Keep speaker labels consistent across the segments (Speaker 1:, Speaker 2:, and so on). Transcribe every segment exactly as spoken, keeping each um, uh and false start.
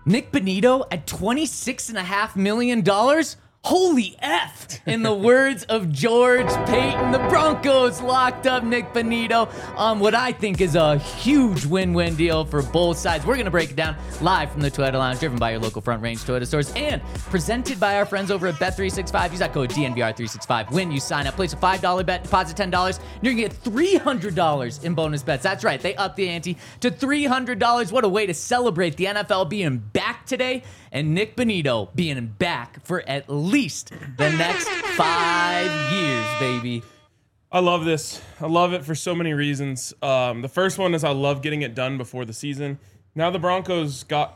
Speaker 1: Nick Bonitto at twenty-six point five million dollars? Holy F, in the words of George Payton. The Broncos locked up Nick Bonitto on what I think is a huge win-win deal for both sides. We're going to break it down live from the Toyota Lounge, driven by your local Front Range Toyota stores, and presented by our friends over at Bet three sixty-five. Use that code D N V R three sixty-five when you sign up. Place a five dollar bet, deposit ten dollars, and you're going to get three hundred dollars in bonus bets. That's right, they upped the ante to three hundred dollars. What a way to celebrate the N F L being back today, and Nick Bonitto being back for at least the next five years, baby.
Speaker 2: I love this. I love it for so many reasons. Um, the first one is I love getting it done before the season. Now the Broncos got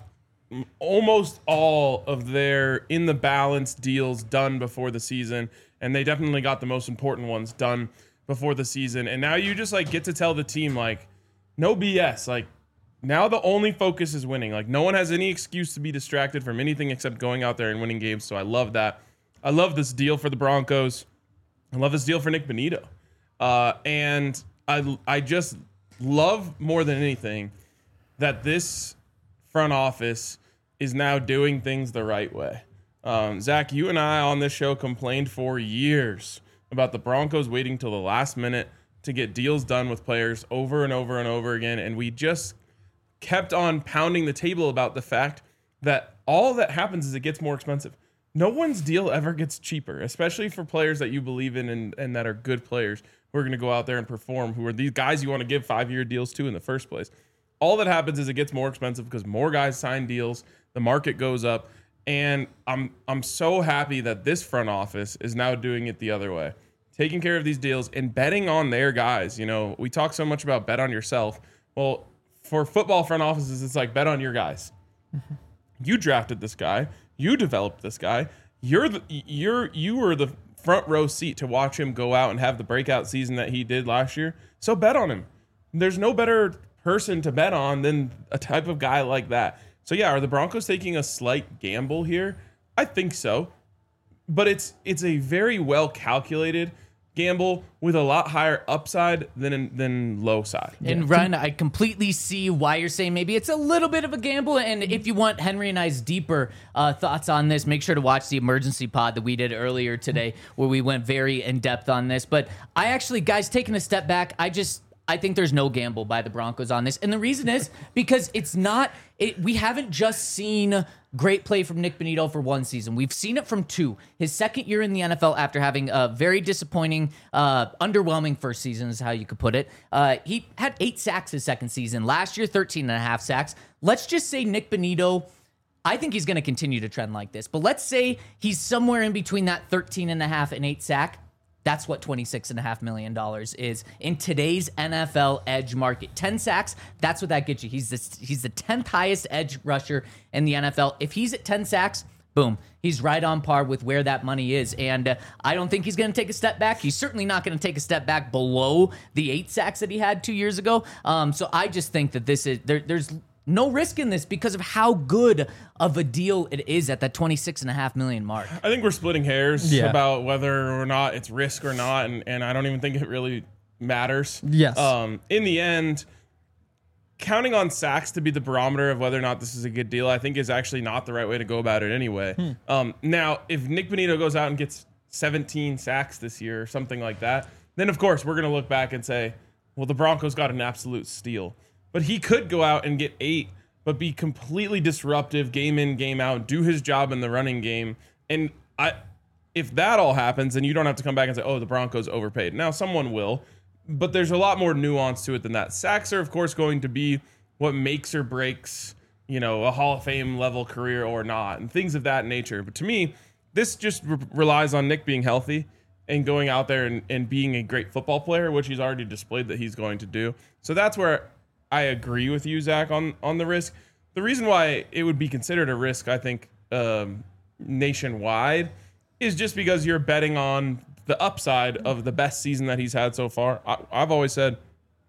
Speaker 2: almost all of their in the balance deals done before the season, and they definitely got the most important ones done before the season. And now you just like get to tell the team, like, no B S. Like, now the only focus is winning. Like, no one has any excuse to be distracted from anything except going out there and winning games. So I love that. I love this deal for the Broncos. I love this deal for Nick Bonitto. Uh, and I, I just love more than anything that this front office is now doing things the right way. Um, Zach, you and I on this show complained for years about the Broncos waiting till the last minute to get deals done with players over and over and over again. And we just kept on pounding the table about the fact that all that happens is it gets more expensive. No one's deal ever gets cheaper, especially for players that you believe in and, and that are good players who are going to go out there and perform, who are these guys you want to give five-year deals to in the first place. All that happens is it gets more expensive because more guys sign deals, the market goes up, and I'm I'm so happy that this front office is now doing it the other way, taking care of these deals and betting on their guys. You know, we talk so much about bet on yourself. Well, for football front offices, it's like bet on your guys. Mm-hmm. You drafted this guy. You developed this guy. You're the, you're you were the front row seat to watch him go out and have the breakout season that he did last year. So bet on him. There's no better person to bet on than a type of guy like that. So yeah, are the Broncos taking a slight gamble here? I think so. But it's it's a very well calculated gamble with a lot higher upside than than low side.
Speaker 1: And Ryan, I completely see why you're saying maybe it's a little bit of a gamble. And if you want Henry and I's deeper uh, thoughts on this, make sure to watch the emergency pod that we did earlier today, where we went very in depth on this. But I actually, guys, taking a step back, I just I think there's no gamble by the Broncos on this. And the reason is because it's not, it, we haven't just seen great play from Nick Bonitto for one season. We've seen it from two. His second year in the N F L after having a very disappointing, uh, underwhelming first season is how you could put it. Uh, he had eight sacks his second season. Last year, thirteen and a half sacks. Let's just say Nick Bonitto, I think he's going to continue to trend like this. But let's say he's somewhere in between that thirteen and a half and eight sack. That's what twenty-six point five million dollars is in today's N F L edge market. ten sacks, that's what that gets you. He's the, he's the tenth highest edge rusher in the N F L. If he's at ten sacks, boom, he's right on par with where that money is. And uh, I don't think he's going to take a step back. He's certainly not going to take a step back below the eight sacks that he had two years ago. Um, so I just think that this is, there, there's no risk in this because of how good of a deal it is at that twenty-six and a half million mark.
Speaker 2: I think we're splitting hairs
Speaker 3: yeah.
Speaker 2: about whether or not it's risk or not, and, and I don't even think it really matters.
Speaker 3: Yes.
Speaker 2: Um, in the end, counting on sacks to be the barometer of whether or not this is a good deal, I think is actually not the right way to go about it anyway. Hmm. Um, now, if Nick Bonitto goes out and gets seventeen sacks this year or something like that, then of course we're going to look back and say, well, the Broncos got an absolute steal. But he could go out and get eight, but be completely disruptive game in, game out, do his job in the running game. And I, if that all happens, then you don't have to come back and say, oh, the Broncos overpaid. Now, someone will, but there's a lot more nuance to it than that. Sacks are, of course, going to be what makes or breaks, you know, a Hall of Fame level career or not, and things of that nature. But to me, this just re- relies on Nick being healthy and going out there and, and being a great football player, which he's already displayed that he's going to do. So that's where I agree with you, Zach, on, on the risk. The reason why it would be considered a risk, I think, um, nationwide is just because you're betting on the upside of the best season that he's had so far. I, I've always said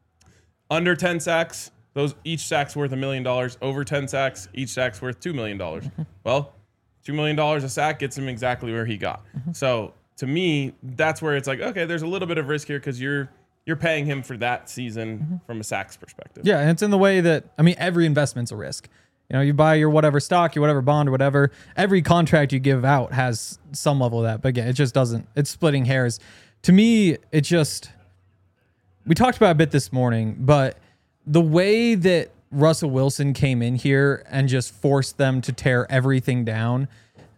Speaker 2: under ten sacks, those each sack's worth a million dollars. Over ten sacks, each sack's worth two million dollars. Well, two million dollars a sack gets him exactly where he got. So to me, that's where it's like, okay, there's a little bit of risk here because you're You're paying him for that season mm-hmm. from a sacks perspective.
Speaker 3: Yeah, and it's in the way that, I mean, every investment's a risk. You know, you buy your whatever stock, your whatever bond, or whatever. Every contract you give out has some level of that. But again, it just doesn't. It's splitting hairs. To me, it just. We talked about it a bit this morning, but the way that Russell Wilson came in here and just forced them to tear everything down,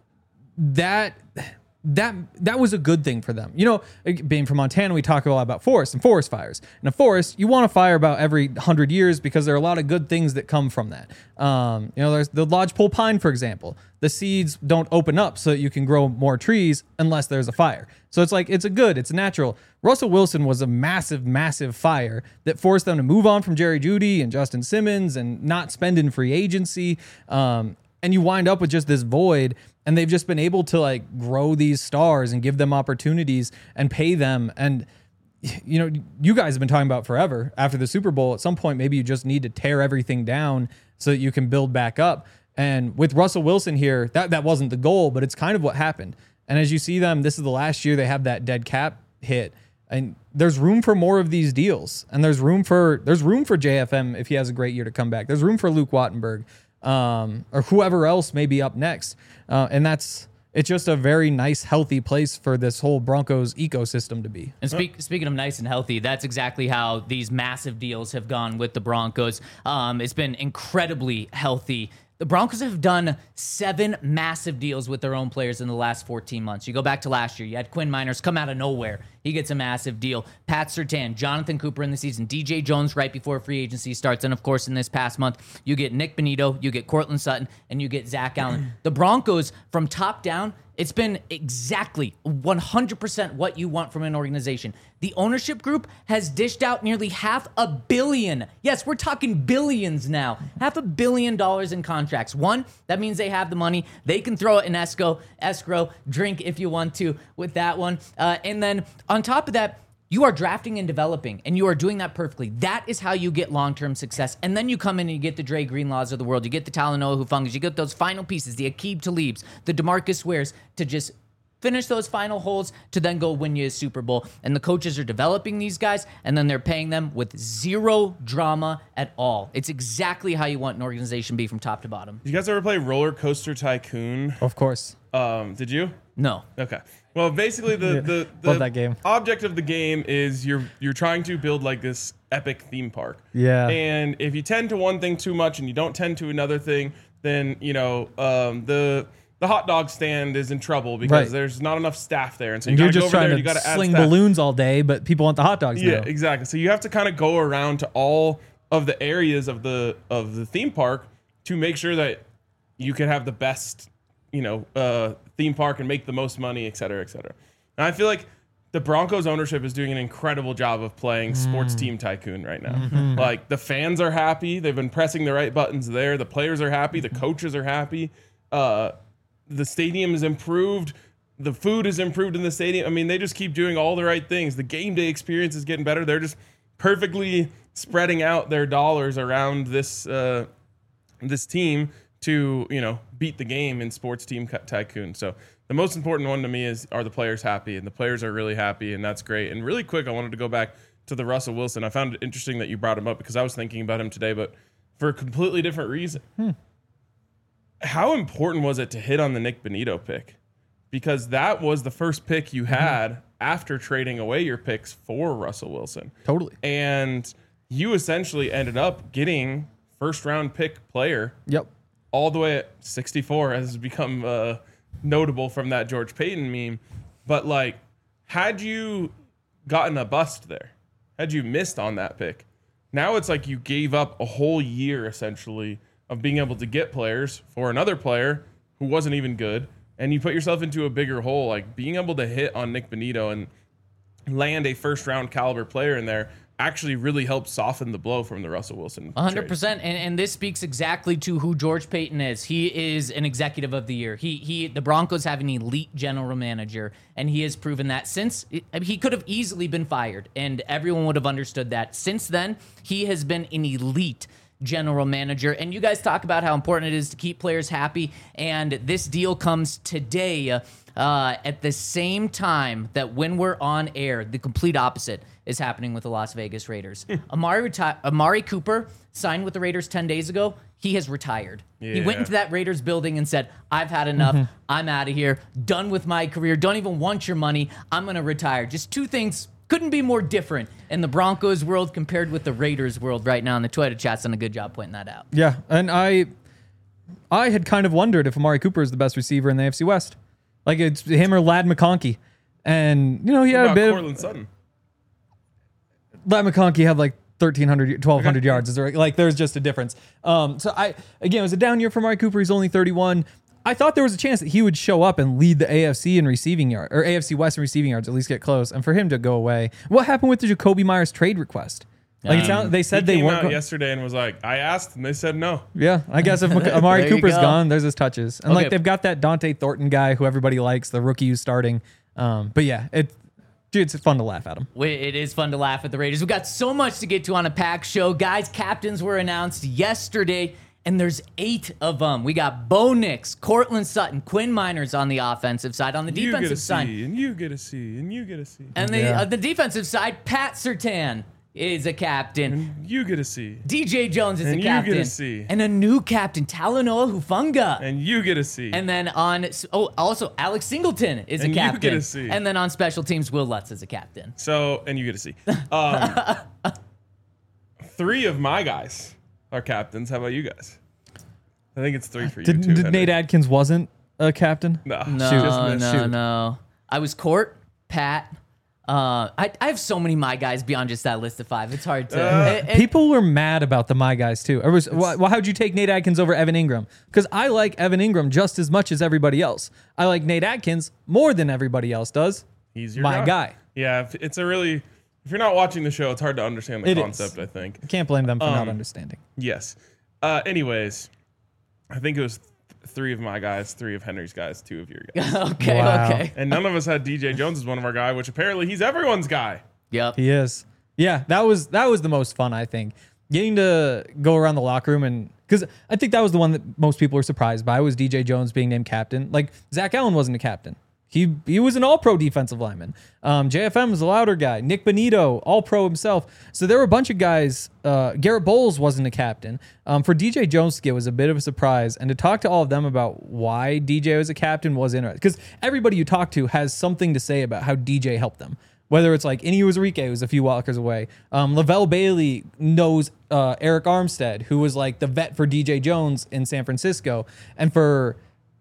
Speaker 3: that. That that was a good thing for them. You know, being from Montana, we talk a lot about forests and forest fires. In a forest, you want to fire about every hundred years because there are a lot of good things that come from that. Um, you know, there's the lodgepole pine, for example. The seeds don't open up so that you can grow more trees unless there's a fire. So it's like, it's a good, it's a natural. Russell Wilson was a massive, massive fire that forced them to move on from Jerry Jeudy and Justin Simmons and not spend in free agency. Um, and you wind up with just this void. And they've just been able to like grow these stars and give them opportunities and pay them. And, you know, you guys have been talking about forever after the Super Bowl. At some point, maybe you just need to tear everything down so that you can build back up. And with Russell Wilson here, that, that wasn't the goal, but it's kind of what happened. And as you see them, this is the last year they have that dead cap hit. And there's room for more of these deals. And there's room for there's room for J F M if he has a great year to come back. There's room for Luke Wattenberg. Um, or whoever else may be up next. Uh, and that's, it's just a very nice, healthy place for this whole Broncos ecosystem to be.
Speaker 1: And speak, speaking of nice and healthy, that's exactly how these massive deals have gone with the Broncos. Um, it's been incredibly healthy. The Broncos have done seven massive deals with their own players in the last fourteen months. You go back to last year, you had Quinn Miners come out of nowhere. He gets a massive deal. Pat Surtain, Jonathan Cooper in the season, D J Jones right before free agency starts. And of course, in this past month, you get Nick Bonito, you get Cortland Sutton, and you get Zach Allen. The Broncos, from top down, it's been exactly one hundred percent what you want from an organization. The ownership group has dished out nearly half a billion. Yes, we're talking billions now. Half a billion dollars in contracts. One, that means they have the money. They can throw it in escrow, escrow, drink if you want to with that one. Uh, and then on top of that, you are drafting and developing, and you are doing that perfectly. That is how you get long-term success. And then you come in and you get the Dre Greenlaws of the world. You get the Talanoa Hufungas. You get those final pieces, the Aqib Talibs, the DeMarcus Wares, to just finish those final holes to then go win you a Super Bowl. And the coaches are developing these guys, and then they're paying them with zero drama at all. It's exactly how you want an organization to be from top to bottom.
Speaker 2: Did you guys ever play Roller Coaster Tycoon?
Speaker 3: Of course.
Speaker 2: Um, did you?
Speaker 1: No.
Speaker 2: Okay. Well, basically the
Speaker 3: Yeah.
Speaker 2: the,
Speaker 3: Love
Speaker 2: the
Speaker 3: that game.
Speaker 2: object of the game is you're you're trying to build like this epic theme park.
Speaker 3: Yeah.
Speaker 2: And if you tend to one thing too much and you don't tend to another thing, then you know um, the the hot dog stand is in trouble because
Speaker 3: Right.
Speaker 2: there's not enough staff there, and so you
Speaker 3: And
Speaker 2: got
Speaker 3: you're
Speaker 2: to go
Speaker 3: just
Speaker 2: over there.
Speaker 3: trying
Speaker 2: You got
Speaker 3: to
Speaker 2: to add
Speaker 3: sling
Speaker 2: staff.
Speaker 3: balloons all day, but people want the hot dogs
Speaker 2: Yeah,
Speaker 3: now.
Speaker 2: exactly. So you have to kind of go around to all of the areas of the of the theme park to make sure that you can have the best, you know, uh, theme park and make the most money, et cetera, et cetera. And I feel like the Broncos ownership is doing an incredible job of playing sports team tycoon right now.
Speaker 3: Mm-hmm.
Speaker 2: Like the fans are happy. They've been pressing the right buttons there. The players are happy. The coaches are happy. Uh, the stadium is improved. The food is improved in the stadium. I mean, they just keep doing all the right things. The game day experience is getting better. They're just perfectly spreading out their dollars around this uh, this team to, you know, beat the game in sports team tycoon. So the most important one to me is, are the players happy? And the players are really happy, and that's great. And really quick, I wanted to go back to the Russell Wilson. I found it interesting that you brought him up because I was thinking about him today, but for a completely different reason. Hmm. How important was it to hit on the Nick Bonito pick? Because that was the first pick you had mm-hmm. after trading away your picks for Russell Wilson.
Speaker 3: Totally.
Speaker 2: And you essentially ended up getting first round pick player.
Speaker 3: Yep.
Speaker 2: All the way at sixty-four, has become uh, notable from that George Payton meme. But like, had you gotten a bust there, had you missed on that pick, now it's like you gave up a whole year essentially of being able to get players for another player who wasn't even good, and you put yourself into a bigger hole. Like being able to hit on Nick Bonito and land a first round caliber player in there actually really helped soften the blow from the Russell Wilson.
Speaker 1: one hundred percent. And, and this speaks exactly to who George Payton is. He is an executive of the year. He he. The Broncos have an elite general manager, and he has proven that since he could have easily been fired, and everyone would have understood that. Since then, he has been an elite general manager. And you guys talk about how important it is to keep players happy, and this deal comes today uh, at the same time that when we're on air, the complete opposite is happening with the Las Vegas Raiders. Amari reti- Amari Cooper signed with the Raiders ten days ago. he has retired. He
Speaker 2: Yeah.
Speaker 1: went into that Raiders building and said, I've had enough.
Speaker 3: Mm-hmm.
Speaker 1: I'm out of here. Done with my career. Don't even want your money. I'm going to retire. Just two things couldn't be more different in the Broncos world compared with the Raiders world right now. And the Twitter chat's done a good job pointing that out.
Speaker 3: Yeah, and I I had kind of wondered if Amari Cooper is the best receiver in the A F C West. Like it's him or Lad McConkey. And, you know, he
Speaker 2: What
Speaker 3: had a
Speaker 2: about
Speaker 3: bit
Speaker 2: Cortland Sutton?
Speaker 3: of... Lad McConkey had like thirteen hundred, twelve hundred yards. Is there, like, there's just a difference. Um, so, I again, it was a down year for Amari Cooper. He's only thirty-one. I thought there was a chance that he would show up and lead the A F C in receiving yard or A F C West in receiving yards, at least get close. And for him to go away, what happened with the Jacoby Myers trade request? Like it sound, they said
Speaker 2: He
Speaker 3: they
Speaker 2: came
Speaker 3: weren't.
Speaker 2: out
Speaker 3: go-
Speaker 2: yesterday and was like, I asked, and they said no.
Speaker 3: Yeah, I guess if Mc- Amari
Speaker 1: There you
Speaker 3: Cooper's
Speaker 1: go.
Speaker 3: gone, there's his touches, and
Speaker 1: Okay.
Speaker 3: like they've got that Dante Thornton guy who everybody likes, the rookie who's starting. Um, but yeah, it, dude, it's fun to laugh at him.
Speaker 1: Wait, It is fun to laugh at the Raiders. We've got so much to get to on a packed show. Guys, captains were announced yesterday, and there's eight of them. We got Bo Nix, Cortland Sutton, Quinn Miners on the offensive side. On the
Speaker 2: You get a
Speaker 1: defensive
Speaker 2: C,
Speaker 1: side,
Speaker 2: and you get a C, and you get a C,
Speaker 1: and the,
Speaker 3: Yeah.
Speaker 1: uh, the defensive side, Pat Surtain is a captain.
Speaker 2: and you get a C,
Speaker 1: D J Jones is
Speaker 2: And
Speaker 1: a
Speaker 2: you get
Speaker 1: captain.
Speaker 2: a C.
Speaker 1: And a new captain, Talanoa Hufanga.
Speaker 2: and you get a C.
Speaker 1: And then on, oh, also Alex Singleton is
Speaker 2: And
Speaker 1: a
Speaker 2: you
Speaker 1: captain.
Speaker 2: get a C.
Speaker 1: And then on special teams, Will Lutz is a captain.
Speaker 2: So, and you get a C. Um, three of my guys are captains. How about you guys? I think it's three for you
Speaker 3: Did,
Speaker 2: too.
Speaker 3: did
Speaker 2: Henry.
Speaker 3: Nate Adkins wasn't a captain?
Speaker 2: No,
Speaker 1: No,
Speaker 2: just
Speaker 1: no,
Speaker 2: missed.
Speaker 3: Shoot.
Speaker 1: no. I was Court, Pat. Uh, I, I have so many my guys beyond just that list of five. It's hard to.
Speaker 2: Uh,
Speaker 1: it- it-
Speaker 3: People were mad about the my guys too. Or was well, how'd you take Nate Adkins over Evan Ingram? Because I like Evan Ingram just as much as everybody else. I like Nate Adkins more than everybody else does.
Speaker 2: He's your
Speaker 3: My
Speaker 2: guy.
Speaker 3: guy.
Speaker 2: Yeah, if- it's a really. If you're not watching the show, it's hard to understand the
Speaker 3: It is.
Speaker 2: concept. I think.
Speaker 3: Can't blame them for not
Speaker 2: Um,
Speaker 3: understanding.
Speaker 2: Yes. Uh, anyways, I think it was th- three of my guys, three of Henry's guys, two of your guys,
Speaker 1: okay,
Speaker 3: Wow.
Speaker 1: okay.
Speaker 2: and none of us had D J Jones as one of our guy, which apparently he's everyone's guy.
Speaker 1: Yep.
Speaker 3: He is. Yeah, that was that was the most fun, I think. Getting to go around the locker room and because I think that was the one that most people were surprised by was D J Jones being named captain. Like Zach Allen wasn't a captain. He he was an all-pro defensive lineman. Um, J F M was a louder guy. Nick Benito, all-pro himself. So there were a bunch of guys. Uh, Garrett Bowles wasn't a captain. Um, for D J Jones to get was a bit of a surprise. And to talk to all of them about why D J was a captain was interesting. Because everybody you talk to has something to say about how D J helped them. Whether it's like Indy Uzurike, who's a few walkers away. Um, Lavelle Bailey knows uh, Eric Armstead, who was like the vet for D J Jones in San Francisco. And for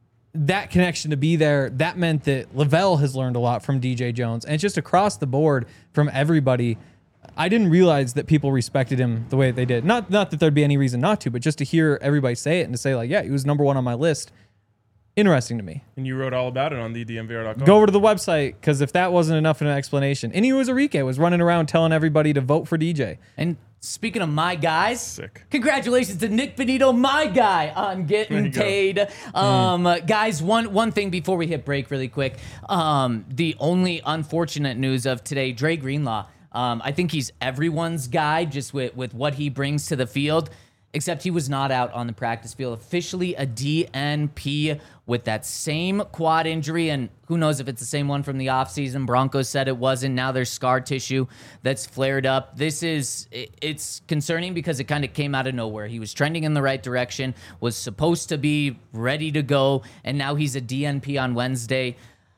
Speaker 3: that connection to be there, that meant that Lavelle has learned a lot from D J Jones. And it's just across the board from everybody. I didn't realize that people respected him the way that they did. Not not that there'd be any reason not to, but just to hear everybody say it and to say like, yeah, he was number one on my list. Interesting to me.
Speaker 2: And you wrote all about it on the D M V R dot com.
Speaker 3: Go over to the website because if that wasn't enough of an explanation, Indy Uzurike was running around telling everybody to vote for D J.
Speaker 1: And speaking of my guys,
Speaker 2: Sick.
Speaker 1: congratulations to Nick Benito, my guy, on
Speaker 2: There
Speaker 1: getting
Speaker 2: you go.
Speaker 1: paid. Um, uh, guys, one one thing before we hit break, really quick. Um, the only unfortunate news of today, Dre Greenlaw. Um, I think he's everyone's guy, just with with what he brings to the field. Except he was not out on the practice field. Officially a D N P with that same quad injury. And who knows if it's the same one from the offseason. Broncos said it wasn't. Now there's scar tissue that's flared up. This is, it- it's concerning because it kind of came out of nowhere. He was trending in the right direction, was supposed to be ready to go. And now he's a D N P on Wednesday.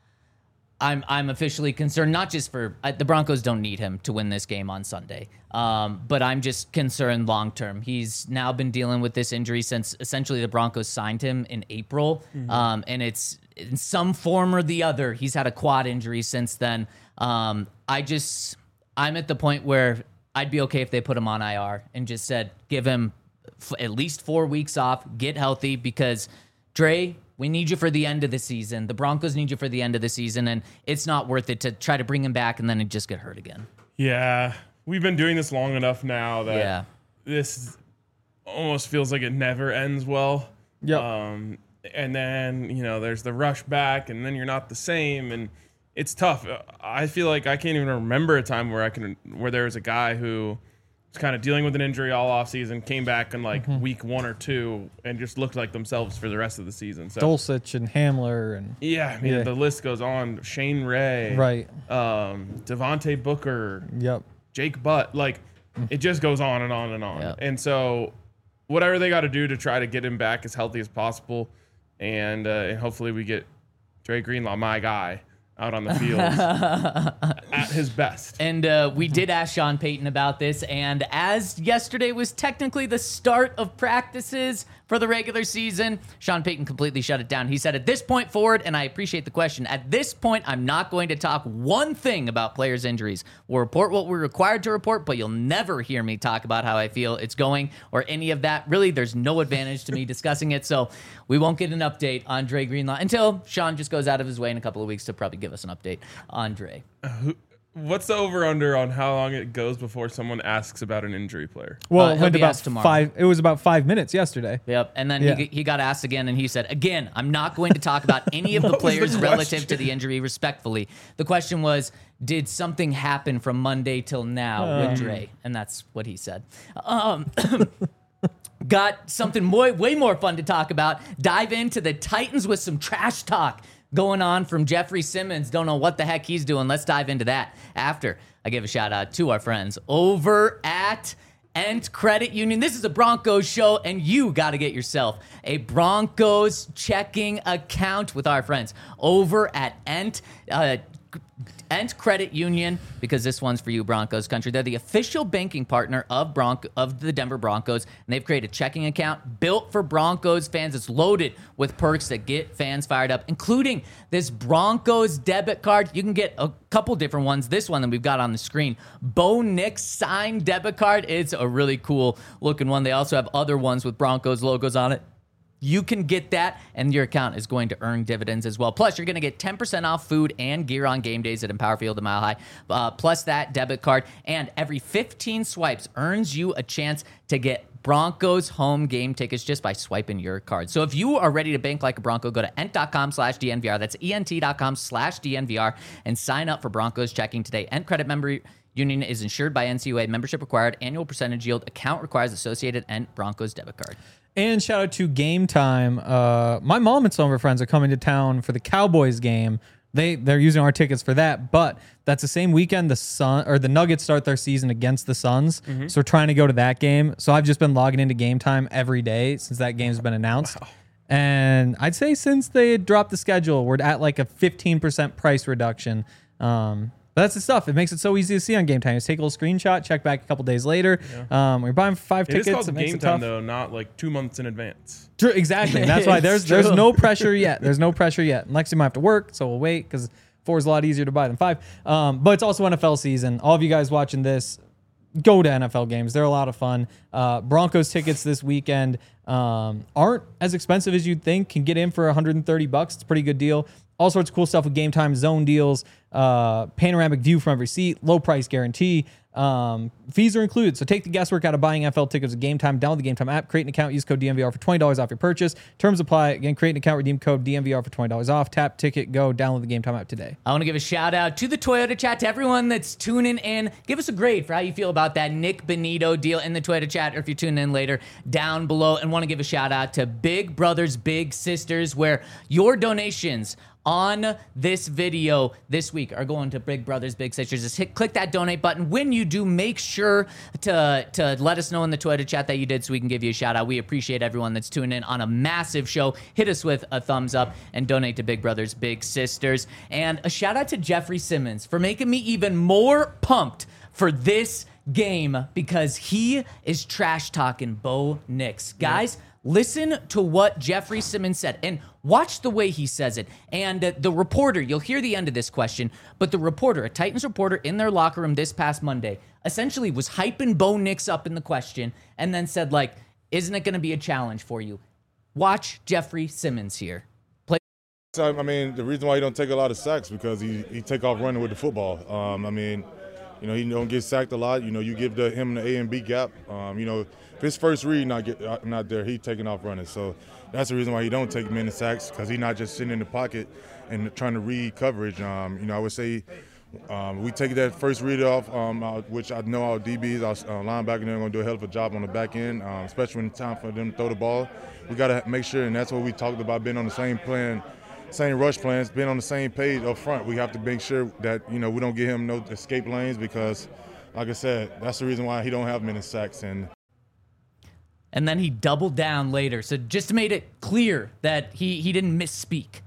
Speaker 1: I'm I'm officially concerned, not just for uh, the Broncos don't need him to win this game on Sunday, um, but I'm just concerned long term. He's now been dealing with this injury since essentially the Broncos signed him in April, um, and it's in some form or the other. He's had a quad injury since then. Um, I just I'm at the point where I'd be okay if they put him on I R and just said give him f- at least four weeks off, get healthy because Dre. We need you for the end of the season. The Broncos need you for the end of the season, and it's not worth it to try to bring him back and then just get hurt again.
Speaker 2: Yeah, we've been doing this long enough now that
Speaker 1: Yeah.
Speaker 2: this almost feels like it never ends well.
Speaker 3: Yep.
Speaker 2: Um, and then, you know, there's the rush back, and then you're not the same, and it's tough. I feel like I can't even remember a time where I can where there was a guy who was kind of dealing with an injury all off season, came back in like week one or two, and just looked like themselves for the rest of the season. So
Speaker 3: Dulcich and Hamler and
Speaker 2: yeah, I mean
Speaker 3: Yeah.
Speaker 2: the list goes on. Shane Ray,
Speaker 3: right.
Speaker 2: Um, Devontae Booker,
Speaker 3: Yep.
Speaker 2: Jake Butt, like it just goes on and on and on.
Speaker 1: Yeah.
Speaker 2: And so whatever they got to do to try to get him back as healthy as possible. And, uh, and hopefully we get Dre Greenlaw, my guy, out on the field at his best.
Speaker 1: And uh, we did ask Sean Payton about this, and as yesterday was technically the start of practices for the regular season, Sean Payton completely shut it down. He said, at this point forward, and I appreciate the question, at this point, I'm not going to talk one thing about players' injuries. We'll report what we're required to report, but you'll never hear me talk about how I feel it's going or any of that. Really, there's no advantage to me discussing it, so we won't get an update on Dre Greenlaw until Sean just goes out of his way in a couple of weeks to probably give us an update on Dre.
Speaker 2: Uh, who, what's the over-under on how long it goes before someone asks about an injury player?
Speaker 3: Well,
Speaker 1: Uh,
Speaker 3: it
Speaker 1: he'll
Speaker 3: went
Speaker 1: be
Speaker 3: about
Speaker 1: asked tomorrow.
Speaker 3: five. It was about five minutes yesterday.
Speaker 1: Yep. And then
Speaker 3: Yeah.
Speaker 1: he, he got asked again, and he said, again, I'm not going to talk about any of the
Speaker 2: What was the
Speaker 1: players relative
Speaker 2: question?
Speaker 1: to the injury respectfully. The question was, did something happen from Monday till now
Speaker 3: Um.
Speaker 1: with Dre? And that's what he said. Um, got something way, way more fun to talk about. Dive into the Titans with some trash talk going on from Jeffrey Simmons. Don't know what the heck he's doing. Let's dive into that after I give a shout out to our friends over at Ent Credit Union. This is a Broncos show, and you got to get yourself a Broncos checking account with our friends over at Ent. Uh, Ent Credit Union, because this one's for you, Broncos country. They're the official banking partner of Bronco of the Denver Broncos, and they've created a checking account built for Broncos fans. It's loaded with perks that get fans fired up, including this Broncos debit card. You can get a couple different ones. This one that we've got on the screen, Bo Nix signed debit card. It's a really cool looking one. They also have other ones with Broncos logos on it. You can get that, and your account is going to earn dividends as well. Plus, you're going to get ten percent off food and gear on game days at Empower Field and Mile High. Uh, plus that debit card, and every fifteen swipes earns you a chance to get Broncos home game tickets just by swiping your card. So if you are ready to bank like a Bronco, go to ent.com slash DNVR. That's ent.com slash DNVR and sign up for Broncos checking today. Ent Credit Member Union is insured by N C U A. Membership required. Annual percentage yield. Account requires associated Ent Broncos debit card.
Speaker 3: And shout out to Game Time. Uh, my mom and some of her friends are coming to town for the Cowboys game. They they're using our tickets for that, but that's the same weekend the Sun or the Nuggets start their season against the Suns.
Speaker 2: Mm-hmm.
Speaker 3: So we're trying to go to that game. So I've just been logging into Game Time every day since that game's been announced.
Speaker 2: Wow.
Speaker 3: And I'd say since they dropped the schedule, we're at like a fifteen percent price reduction. Um, But that's the stuff. It makes it so easy to see on Game Time. Just take a little screenshot, check back a couple days later.
Speaker 2: Yeah.
Speaker 3: Um, we're buying five
Speaker 2: It
Speaker 3: tickets.
Speaker 2: is called
Speaker 3: it makes
Speaker 2: Game
Speaker 3: it
Speaker 2: Time,
Speaker 3: tough.
Speaker 2: though, not like two months in advance.
Speaker 3: True, exactly. And that's why there's
Speaker 1: It's
Speaker 3: there's
Speaker 1: true.
Speaker 3: no pressure yet. There's no pressure yet. And Lexi might have to work, so we'll wait because four is a lot easier to buy than five. Um, but it's also N F L season. All of you guys watching this, go to N F L games. They're a lot of fun. Uh, Broncos tickets this weekend um, aren't as expensive as you'd think. Can get in for one hundred thirty bucks. It's a pretty good deal. All sorts of cool stuff with Game Time zone deals, uh, panoramic view from every seat, low price guarantee. Um, fees are included, so take the guesswork out of buying N F L tickets at Game Time. Download the Game Time app, create an account, use code D N V R for twenty dollars off your purchase. Terms apply. Again, create an account, redeem code D N V R for twenty dollars off. Tap, ticket, go. Download the Game Time app today.
Speaker 1: I want to give a shout out to the Toyota Chat, to everyone that's tuning in. Give us a grade for how you feel about that Nick Benito deal in the Toyota Chat, or if you're tuning in later, down below. And want to give a shout out to Big Brothers Big Sisters, where your donations on this video this week are going to Big Brothers Big Sisters. Just hit click that donate button. When you do, make sure to to let us know in the Twitter chat that you did, so we can give you a shout out. We appreciate everyone that's tuning in on a massive show. Hit us with a thumbs up and donate to Big Brothers Big Sisters. And a shout out to Jeffrey Simmons for making me even more pumped for this game, because he is trash talking Bo Nix. Guys, yeah. Listen to what Jeffrey Simmons said and watch the way he says it. And uh, the reporter, you'll hear the end of this question, but the reporter, a Titans reporter in their locker room this past Monday, essentially was hyping Bo Nix up in the question and then said, like, isn't it going to be a challenge for you? Watch Jeffrey Simmons here. Play.
Speaker 4: I mean, the reason why he don't take a lot of sacks because he, he take off running with the football. Um, I mean, you know, he don't get sacked a lot. You know, you give the, him the A and B gap. Um, you know, if his first read not get uh, not there, he taking off running. So that's the reason why he don't take many sacks, because he's not just sitting in the pocket and trying to read coverage. Um, you know, I would say um, we take that first read off, um, uh, which I know our D Bs, our uh, linebacker, they're going to do a hell of a job on the back end, um, especially when it's time for them to throw the ball. We got to make sure, and that's what we talked about, being on the same plan. Same rush plans, being on the same page up front. We have to make sure that, you know, we don't give him no escape lanes, because, like I said, that's the reason why he don't have many sacks. And
Speaker 1: And then he doubled down later. So just made it clear that he, he didn't misspeak.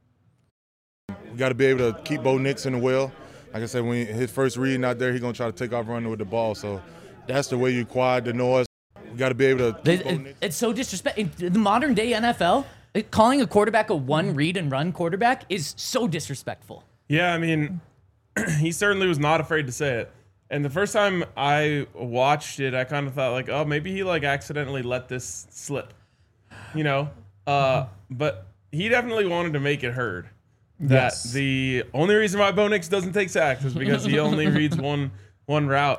Speaker 4: We got to be able to keep Bo Nix in the well. Like I said, when his first read not there, he's going to try to take off running with the ball. So that's the way you quiet the noise. We got to be able to keep
Speaker 1: It,
Speaker 4: Bo
Speaker 1: it,
Speaker 4: Nix.
Speaker 1: it's so disrespectful. In the modern day N F L, it- calling a quarterback a one read and run quarterback is so disrespectful.
Speaker 2: Yeah, I mean, he certainly was not afraid to say it. And the first time I watched it, I kind of thought like, oh, maybe he like accidentally let this slip, you know? Uh, but he definitely wanted to make it heard that
Speaker 3: Yes.
Speaker 2: the only reason why Bo Nix doesn't take sacks is because he only reads one one route.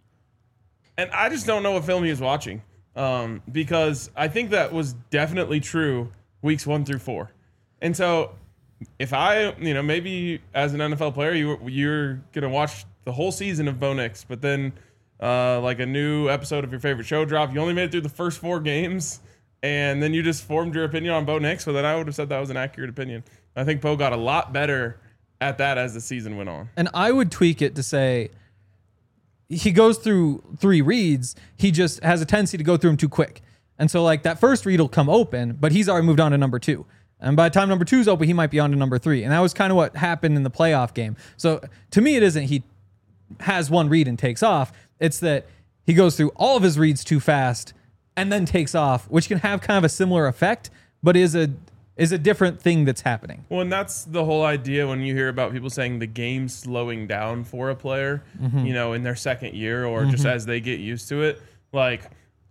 Speaker 2: And I just don't know what film he was watching, um, because I think that was definitely true weeks one through four. And so if I, you know, maybe as an N F L player, you, you're going to watch the whole season of Bo Nix, but then uh, like a new episode of your favorite show drop, you only made it through the first four games, and then you just formed your opinion on Bo Nix, well, then I would have said that was an accurate opinion. I think Bo got a lot better at that as the season went on.
Speaker 3: And I would tweak it to say he goes through three reads. He just has a tendency to go through them too quick. And so like that first read will come open, but he's already moved on to number two. And by the time number two is open, he might be on to number three. And that was kind of what happened in the playoff game. So to me, it isn't he has one read and takes off. It's that he goes through all of his reads too fast and then takes off, which can have kind of a similar effect, but is a is a different thing that's happening.
Speaker 2: Well, and that's the whole idea when you hear about people saying the game's slowing down for a player,
Speaker 3: Mm-hmm.
Speaker 2: you know, in their second year or just as they get used to it. Like,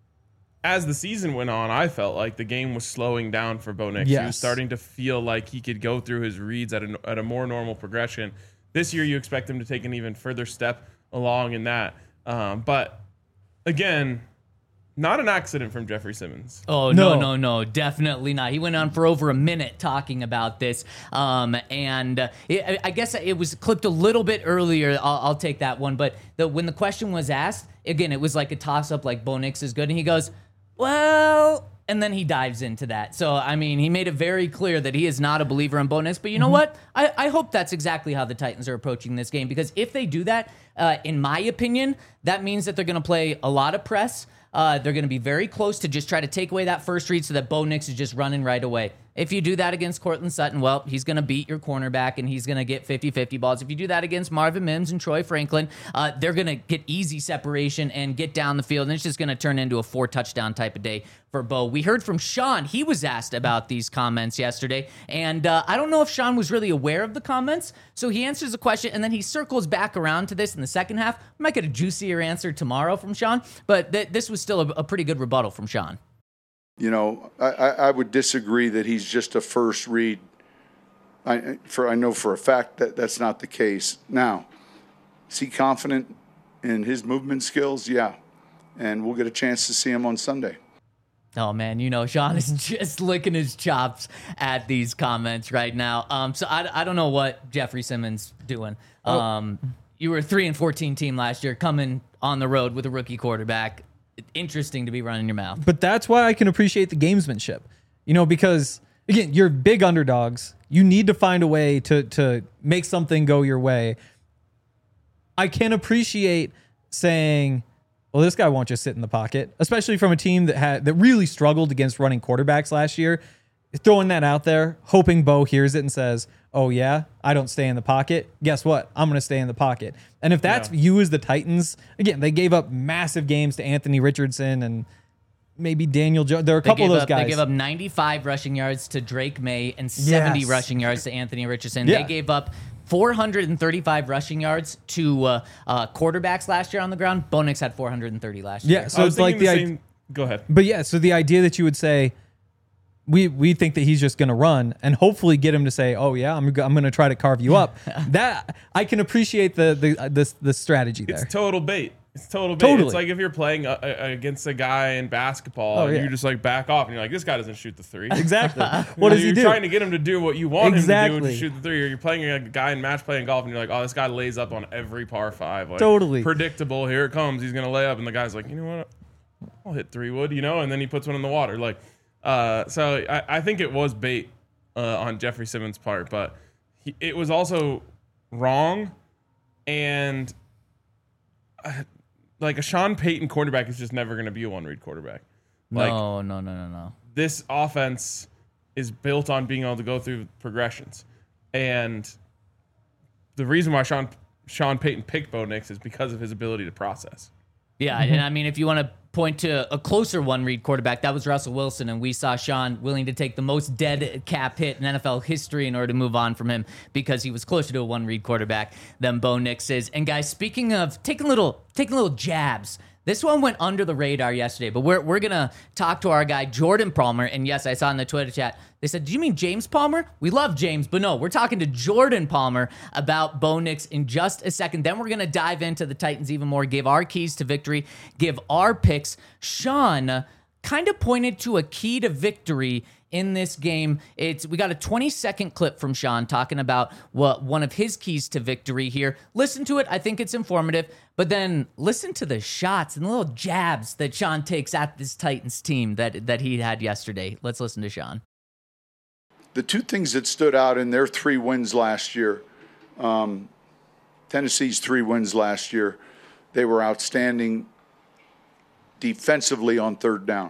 Speaker 2: as the season went on, I felt like the game was slowing down for Bo Nix. He was
Speaker 3: Yes.
Speaker 2: starting to feel like he could go through his reads at a, at a more normal progression. This year, you expect him to take an even further step along in that. Um, but, again, not an accident from Jeffrey Simmons.
Speaker 1: Oh, no,
Speaker 3: No.
Speaker 1: no, no, definitely not. He went on for over a minute talking about this. Um, and uh, it, I guess it was clipped a little bit earlier. I'll, I'll take that one. But the, when the question was asked, again, it was like a toss-up, like Bo Nix is good. And he goes, well, and then he dives into that. So, I mean, he made it very clear that he is not a believer in Bo Nix. But you know what? I, I hope that's exactly how the Titans are approaching this game. Because if they do that, uh, in my opinion, that means that they're going to play a lot of press. Uh, they're going to be very close to just try to take away that first read so that Bo Nix is just running right away. If you do that against Cortland Sutton, well, he's going to beat your cornerback and he's going to get fifty-fifty balls. If you do that against Marvin Mims and Troy Franklin, uh, they're going to get easy separation and get down the field, and it's just going to turn into a four-touchdown type of day for Bo. We heard from Sean. He was asked about these comments yesterday, and uh, I don't know if Sean was really aware of the comments, so he answers the question, and then he circles back around to this in the second half. We might get a juicier answer tomorrow from Sean, but th- this was still a, a pretty good rebuttal from Sean.
Speaker 5: You know, I, I I would disagree that he's just a first read. I for I know for a fact that that's not the case. Now, is he confident in his movement skills? Yeah, and we'll get a chance to see him on Sunday.
Speaker 1: Oh man, you know Sean is just licking his chops at these comments right now. Um, so I, I don't know what Jeffrey Simmons doing. Um, you were a three and fourteen team last year, coming on the road with a rookie quarterback. Interesting to be running your mouth.
Speaker 3: But that's why I can appreciate the gamesmanship, you know, because again, you're big underdogs. You need to find a way to to make something go your way. I can appreciate saying, well, this guy won't just sit in the pocket, especially from a team that had that really struggled against running quarterbacks last year. Throwing that out there, hoping Bo hears it and says, oh yeah, I don't stay in the pocket. Guess what? I'm going to stay in the pocket. And if that's
Speaker 2: Yeah.
Speaker 3: you as the Titans, again, they gave up massive games to Anthony Richardson and maybe Daniel Jones. There are a
Speaker 1: They
Speaker 3: couple
Speaker 1: gave
Speaker 3: of those
Speaker 1: up,
Speaker 3: guys.
Speaker 1: They gave up ninety-five rushing yards to Drake May and seventy
Speaker 3: Yes.
Speaker 1: rushing yards to Anthony Richardson.
Speaker 3: Yeah.
Speaker 1: They gave up four hundred thirty-five rushing yards to uh, uh, quarterbacks last year on the ground. Bo Nix had four hundred thirty last year.
Speaker 3: Yeah, so
Speaker 2: I was
Speaker 3: it's like
Speaker 2: thinking
Speaker 3: the,
Speaker 2: the
Speaker 3: idea.
Speaker 2: same. Go ahead.
Speaker 3: But yeah, so the idea that you would say, we we think that he's just going to run and hopefully get him to say, oh yeah, I'm go- I'm going to try to carve you up. That I can appreciate the the uh, this the strategy there.
Speaker 2: It's total bait. It's total bait.
Speaker 3: Totally.
Speaker 2: It's like if you're playing uh, uh, against a guy in basketball
Speaker 3: Oh,
Speaker 2: and
Speaker 3: yeah.
Speaker 2: you just like back off and you're like, this guy doesn't shoot the three.
Speaker 3: Exactly. What does
Speaker 2: you're
Speaker 3: he do?
Speaker 2: trying to get him to do what you want him to do,
Speaker 3: Exactly.
Speaker 2: which is shoot the three. Or you're playing a guy in match playing golf and you're like, oh, this guy lays up on every par five. Like,
Speaker 3: Totally.
Speaker 2: predictable. Here it comes. He's gonna lay up, and the guy's like, you know what? I'll hit three wood, you know, and then he puts one in the water. Like, uh, so I, I think it was bait uh, on Jeffrey Simmons' part, but he, it was also wrong, and. Uh, Like a Sean Payton quarterback is just never going to be a one-read quarterback. Like,
Speaker 1: no, no, no, no, no.
Speaker 2: this offense is built on being able to go through progressions. And the reason why Sean Sean Payton picked Bo Nix is because of his ability to process.
Speaker 1: Yeah, and I mean, if you want to point to a closer one-read quarterback, that was Russell Wilson, and we saw Sean willing to take the most dead cap hit in N F L history in order to move on from him because he was closer to a one-read quarterback than Bo Nix is. And guys, speaking of taking little taking little jabs, this one went under the radar yesterday, but we're we're gonna talk to our guy Jordan Palmer. And yes, I saw in the Twitter chat they said, "Do you mean James Palmer?" We love James, but no, we're talking to Jordan Palmer about Bo Nix in just a second. Then we're gonna dive into the Titans even more, give our keys to victory, give our picks. Sean kind of pointed to a key to victory in this game. It's we got a twenty second clip from Sean talking about what one of his keys to victory here. Listen to it. I think it's informative, but then listen to the shots and the little jabs that Sean takes at this Titans team that that he had yesterday. Let's listen to Sean.
Speaker 5: The two things that stood out in their three wins last year, um, Tennessee's three wins last year, they were outstanding defensively on third down.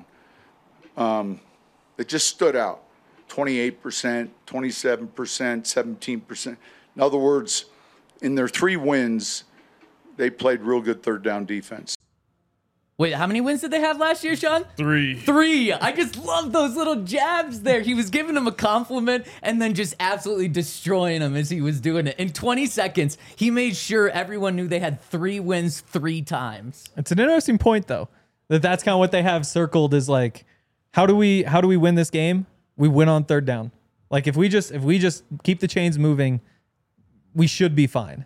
Speaker 5: Um, It just stood out. twenty-eight percent, twenty-seven percent, seventeen percent. In other words, in their three wins, they played real good third down defense.
Speaker 1: Wait, how many wins did they have last year, Sean?
Speaker 2: Three.
Speaker 1: Three. I just love those little jabs there. He was giving him a compliment and then just absolutely destroying him as he was doing it. In twenty seconds, he made sure everyone knew they had three wins three times.
Speaker 3: It's an interesting point, though, that that's kind of what they have circled is like, how do we how do we win this game? We win on third down. Like if we just if we just keep the chains moving, we should be fine.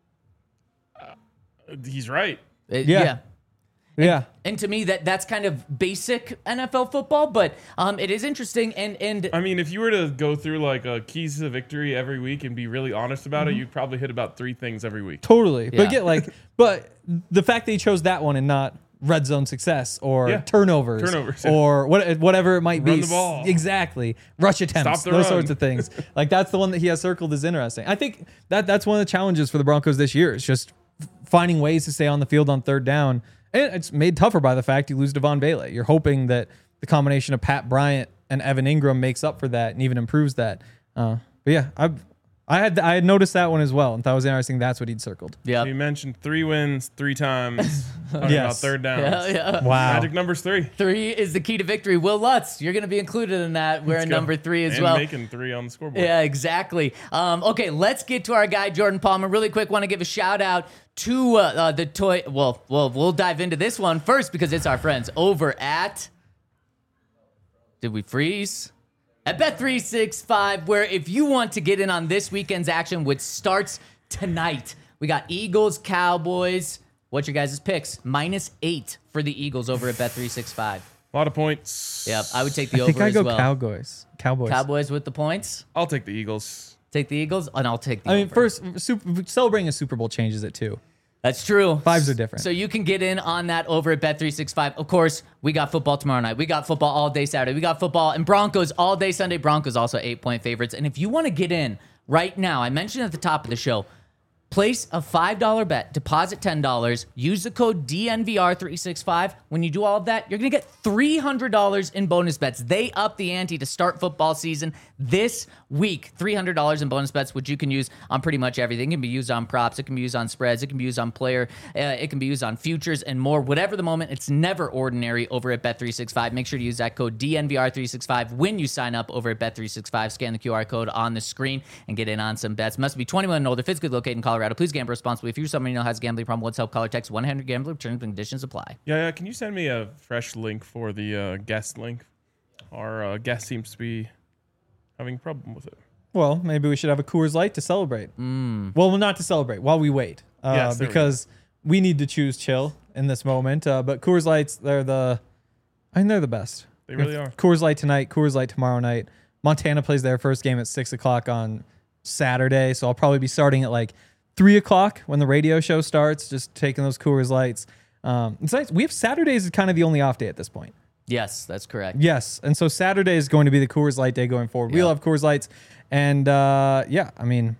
Speaker 2: Uh, he's right.
Speaker 1: It-
Speaker 3: Yeah.
Speaker 1: yeah.
Speaker 3: Yeah.
Speaker 1: And to me, that that's kind of basic N F L football, but um, it is interesting. And and
Speaker 2: I mean, if you were to go through like a keys to victory every week and be really honest about
Speaker 3: Mm-hmm.
Speaker 2: it, you'd probably hit about three things every week.
Speaker 3: Totally.
Speaker 1: Yeah.
Speaker 3: But get like but the fact that he chose that one and not red zone success or
Speaker 2: Yeah.
Speaker 3: turnovers,
Speaker 2: Turnovers, yeah.
Speaker 3: or what, whatever it might
Speaker 2: Run
Speaker 3: be.
Speaker 2: the ball.
Speaker 3: Exactly. Rush attempts,
Speaker 2: Stop the
Speaker 3: those
Speaker 2: run.
Speaker 3: sorts of things. Like that's the one that he has circled is interesting. I think that that's one of the challenges for the Broncos this year. Is just finding ways to stay on the field on third down. And it's made tougher by the fact you lose Devon Bailey. You're hoping that the combination of Pat Bryant and Evan Ingram makes up for that and even improves that. Uh, but yeah, I I had I had noticed that one as well and thought it was interesting. That's what he'd circled.
Speaker 1: yeah,
Speaker 2: So you mentioned three wins three times. Talking
Speaker 3: Yes.
Speaker 2: about third downs.
Speaker 1: yeah, yeah.
Speaker 3: Wow.
Speaker 2: Magic number's three.
Speaker 1: Three is the key to victory. Will Lutz, you're going to be included in that. We're
Speaker 2: Let's
Speaker 1: in
Speaker 2: go.
Speaker 1: number three as
Speaker 2: and
Speaker 1: well.
Speaker 2: making three on the scoreboard.
Speaker 1: Yeah, exactly. Um, okay, let's get to our guy Jordan Palmer. Really quick, want to give a shout out to uh, uh, the toy. Well, well, we'll dive into this one first because it's our friends over at. Did we freeze? At Bet three sixty-five, where if you want to get in on this weekend's action, which starts tonight, we got Eagles, Cowboys. What's your guys' picks? Minus eight for the Eagles over at Bet three sixty-five.
Speaker 2: A lot of points.
Speaker 1: Yep, I would take the
Speaker 3: I
Speaker 1: over
Speaker 3: think I
Speaker 1: as
Speaker 3: go
Speaker 1: well.
Speaker 3: Cowboys. Cowboys.
Speaker 1: Cowboys with the points.
Speaker 2: I'll take the Eagles.
Speaker 1: Take the Eagles, and I'll take the
Speaker 3: I mean,
Speaker 1: over.
Speaker 3: first, super, celebrating a Super Bowl changes it too.
Speaker 1: That's true.
Speaker 3: Fives are different.
Speaker 1: So you can get in on that over at Bet three sixty-five. Of course, we got football tomorrow night. We got football all day Saturday. We got football and Broncos all day Sunday. Broncos also eight-point favorites. And if you want to get in right now, I mentioned at the top of the show, place a five dollar bet, deposit ten dollars, use the code D N V R three sixty-five. When you do all of that, you're going to get three hundred dollars in bonus bets. They up the ante to start football season this week. three hundred dollars in bonus bets, which you can use on pretty much everything. It can be used on props. It can be used on spreads. It can be used on player. Uh, it can be used on futures and more. Whatever the moment, it's never ordinary over at Bet three sixty-five. Make sure to use that code D N V R three sixty-five when you sign up over at Bet three sixty-five. Scan the Q R code on the screen and get in on some bets. Must be twenty-one and older, physically located in Colorado. Please gamble responsibly. If you're someone you know has a gambling problem, let's help. Caller text one hundred gambler. Terms and conditions apply.
Speaker 2: Yeah, yeah. Can you send me a fresh link for the uh, guest link? Our uh, guest seems to be having a problem with it.
Speaker 3: Well, maybe we should have a Coors Light to celebrate.
Speaker 1: Mm.
Speaker 3: Well, not to celebrate while we wait, uh,
Speaker 2: Yes, there we
Speaker 3: because we, need to choose chill in this moment. Uh, but Coors Lights, they're the, I mean, they're the best.
Speaker 2: They really are.
Speaker 3: Coors Light tonight, Coors Light tomorrow night. Montana plays their first game at six o'clock on Saturday, so I'll probably be starting at like three o'clock when the radio show starts. Just taking those Coors Lights. Um, it's nice. We have Saturdays is kind of the only off day at this point.
Speaker 1: Yes, that's correct.
Speaker 3: Yes, and so Saturday is going to be the Coors Light day going forward. We'll
Speaker 1: Yeah.
Speaker 3: have Coors Lights, and uh, yeah, I mean,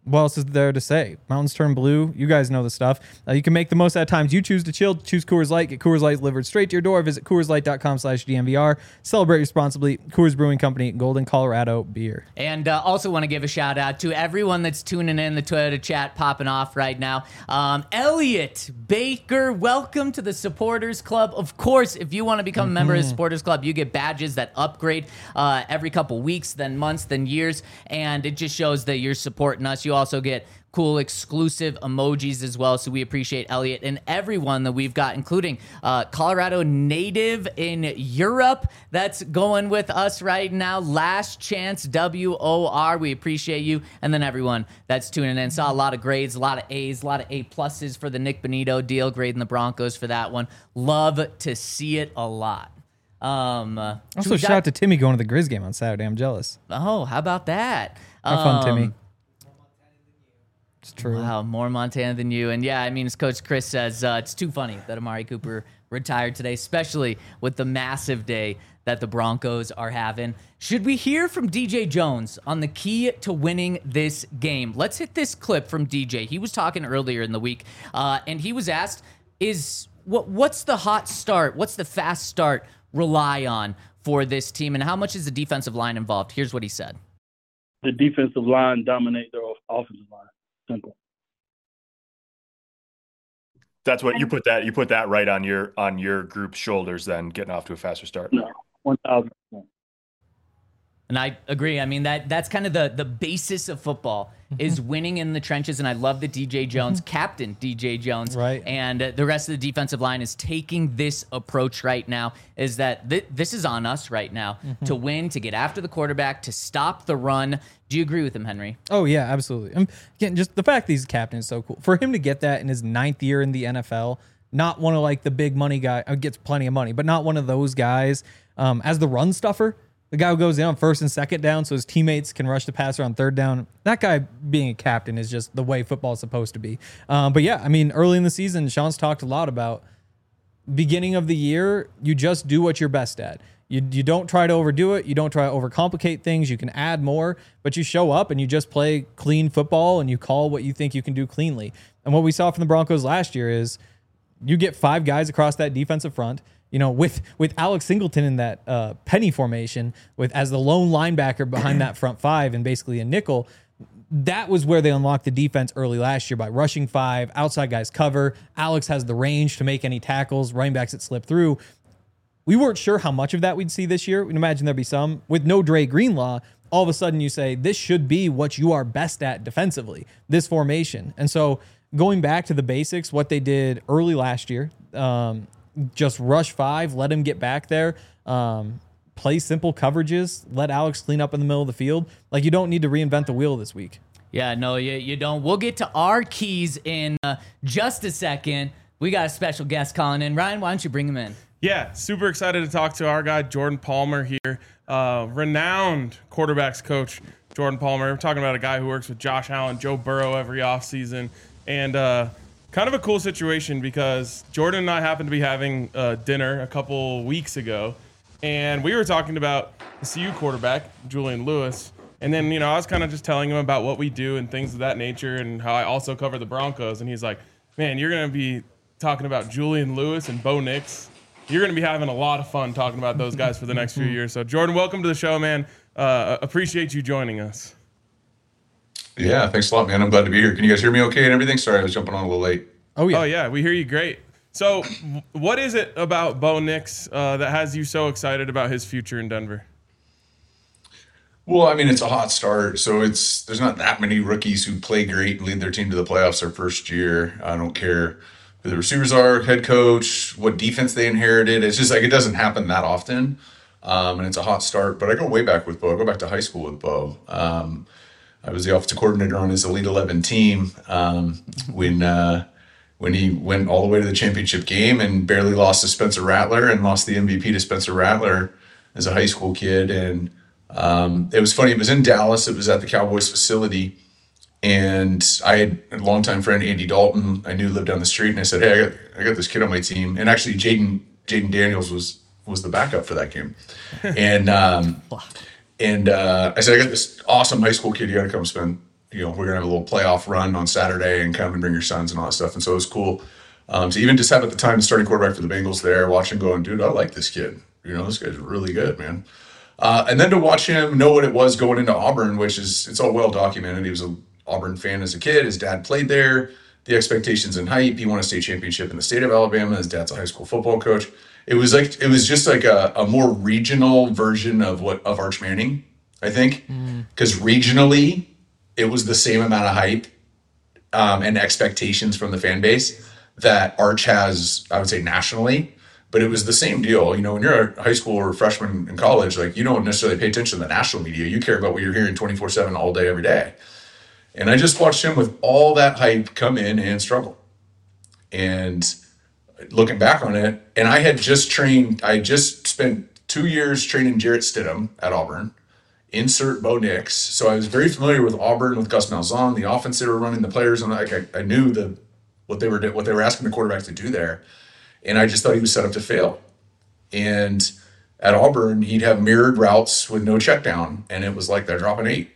Speaker 3: what else is there to say? Mountains turn blue. You guys know the stuff. Uh, you can make the most out of times you choose to chill. Choose Coors Light. Get Coors Light delivered straight to your door. Visit Coors Light dot com slash D M V R. Celebrate responsibly. Coors Brewing Company, Golden, Colorado beer.
Speaker 1: And uh, also want to give a shout out to everyone that's tuning in, the Twitter chat popping off right now. Um, Elliot Baker, welcome to the Supporters Club. Of course, if you want to become mm-hmm. a member of the Supporters Club, you get badges that upgrade uh, every couple weeks, then months, then years. And it just shows that you're supporting us. You also get cool exclusive emojis as well. So we appreciate Elliot and everyone that we've got, including uh, Colorado native in Europe that's going with us right now. Last Chance W O R. We appreciate you. And then everyone that's tuning in. Saw a lot of grades, a lot of A's, a lot of A pluses for the Nick Bonito deal, grading the Broncos for that one. Love to see it a lot. Um, uh,
Speaker 3: also, shout out to Timmy going to the Grizz game on Saturday. I'm jealous.
Speaker 1: Oh, how about that?
Speaker 3: Have fun,
Speaker 1: um,
Speaker 3: Timmy. It's true.
Speaker 1: Wow, more Montana than you. And yeah, I mean, as Coach Chris says, uh, it's too funny that Amari Cooper retired today, especially with the massive day that the Broncos are having. Should we hear from D J Jones on the key to winning this game? Let's hit this clip from D J. He was talking earlier in the week, uh, and he was asked, "Is what what's the hot start? What's the fast start rely on for this team, and how much is the defensive line involved?" Here's what he said.
Speaker 6: The defensive line dominate their offensive line. Simple.
Speaker 7: That's what you put that you put that right on your on your group's shoulders. Then getting off to a faster start.
Speaker 6: No, one thousand percent.
Speaker 1: And I agree. I mean, that that's kind of the, the basis of football is winning in the trenches. And I love that D J Jones, Captain D J Jones,
Speaker 3: right,
Speaker 1: and uh, the rest of the defensive line is taking this approach right now, is that th- this is on us right now mm-hmm. to win, to get after the quarterback, to stop the run. Do you agree with him, Henry?
Speaker 3: Oh, yeah, absolutely. Um, again, just the fact that he's captain is so cool. For him to get that in his ninth year in the N F L, not one of like the big money guy, uh, gets plenty of money, but not one of those guys um, as the run stuffer. The guy who goes in on first and second down so his teammates can rush the passer on third down. That guy being a captain is just the way football is supposed to be. Um, but yeah, I mean, early in the season, Sean's talked a lot about beginning of the year, you just do what you're best at. You you don't try to overdo it. You don't try to overcomplicate things. You can add more, but you show up and you just play clean football and you call what you think you can do cleanly. And what we saw from the Broncos last year is you get five guys across that defensive front. You know, with with Alex Singleton in that uh, penny formation, with as the lone linebacker behind that front five and basically a nickel, that was where they unlocked the defense early last year by rushing five, outside guys cover. Alex has the range to make any tackles, running backs that slip through. We weren't sure how much of that we'd see this year. We'd imagine there'd be some. With no Dre Greenlaw, all of a sudden you say, this should be what you are best at defensively, this formation. And so going back to the basics, what they did early last year, um, just rush five, let him get back there, um, play simple coverages, let Alex clean up in the middle of the field. Like, you don't need to reinvent the wheel this week.
Speaker 1: Yeah, no, you, you don't. We'll get to our keys in uh, just a second. We got a special guest calling in. Ryan, why don't you bring him in?
Speaker 2: Yeah, super excited to talk to our guy, Jordan Palmer here, uh, renowned quarterbacks coach, Jordan Palmer. We're talking about a guy who works with Josh Allen, Joe Burrow every offseason, and uh, kind of a cool situation because Jordan and I happened to be having uh, dinner a couple weeks ago, and we were talking about the C U quarterback, Julian Lewis, and then, you know, I was kind of just telling him about what we do and things of that nature and how I also cover the Broncos, and he's like, man, you're going to be talking about Julian Lewis and Bo Nix. You're going to be having a lot of fun talking about those guys for the next few years. So, Jordan, welcome to the show, man. Uh, appreciate you joining us.
Speaker 8: Yeah, thanks a lot, man. I'm glad to be here. Can you guys hear me okay and everything? Sorry, I was jumping on a little late.
Speaker 2: Oh, yeah. Oh, yeah, we hear you great. So, what is it about Bo Nix uh, that has you so excited about his future in Denver?
Speaker 8: Well, I mean, it's a hot start. So, it's there's not that many rookies who play great and lead their team to the playoffs their first year. I don't care who the receivers are, head coach, what defense they inherited. It's just like it doesn't happen that often. Um, and it's a hot start. But I go way back with Bo. I go back to high school with Bo. Um, I was the offensive coordinator on his Elite eleven team um, when uh, when he went all the way to the championship game and barely lost to Spencer Rattler and lost the M V P to Spencer Rattler as a high school kid. And um, it was funny. It was in Dallas. It was at the Cowboys facility. And I had a longtime friend, Andy Dalton, I knew lived down the street. And I said, hey, I got, I got this kid on my team. And actually, Jaden Jaden Daniels was was the backup for that game. And um, and uh, I said, I got this awesome high school kid. You got to come spend you know, we're going to have a little playoff run on Saturday and come and bring your sons and all that stuff. And so it was cool. Um, to even just have at the time the starting quarterback for the Bengals there, watching going, dude, I like this kid. You know, this guy's really good, man. Uh, and then to watch him know what it was going into Auburn, which is, it's all well documented. He was an Auburn fan as a kid. His dad played there. The expectations and hype. He won a state championship in the state of Alabama. His dad's a high school football coach. It was like, it was just like a, a more regional version of what, of Arch Manning, I think. Because mm. regionally, it was the same amount of hype um, and expectations from the fan base that Arch has, I would say, nationally. But it was the same deal. You know, when you're a high school or a freshman in college, like, you don't necessarily pay attention to the national media. You care about what you're hearing twenty-four seven all day, every day. And I just watched him with all that hype come in and struggle. And looking back on it, and I had just trained, I just spent two years training Jarrett Stidham at Auburn. Insert Bo Nix. So I was very familiar with Auburn, with Gus Malzahn, the offense they were running, the players, and like I, I knew the what they were what they were asking the quarterback to do there, and I just thought he was set up to fail. And at Auburn, he'd have mirrored routes with no check down, and it was like they're dropping eight.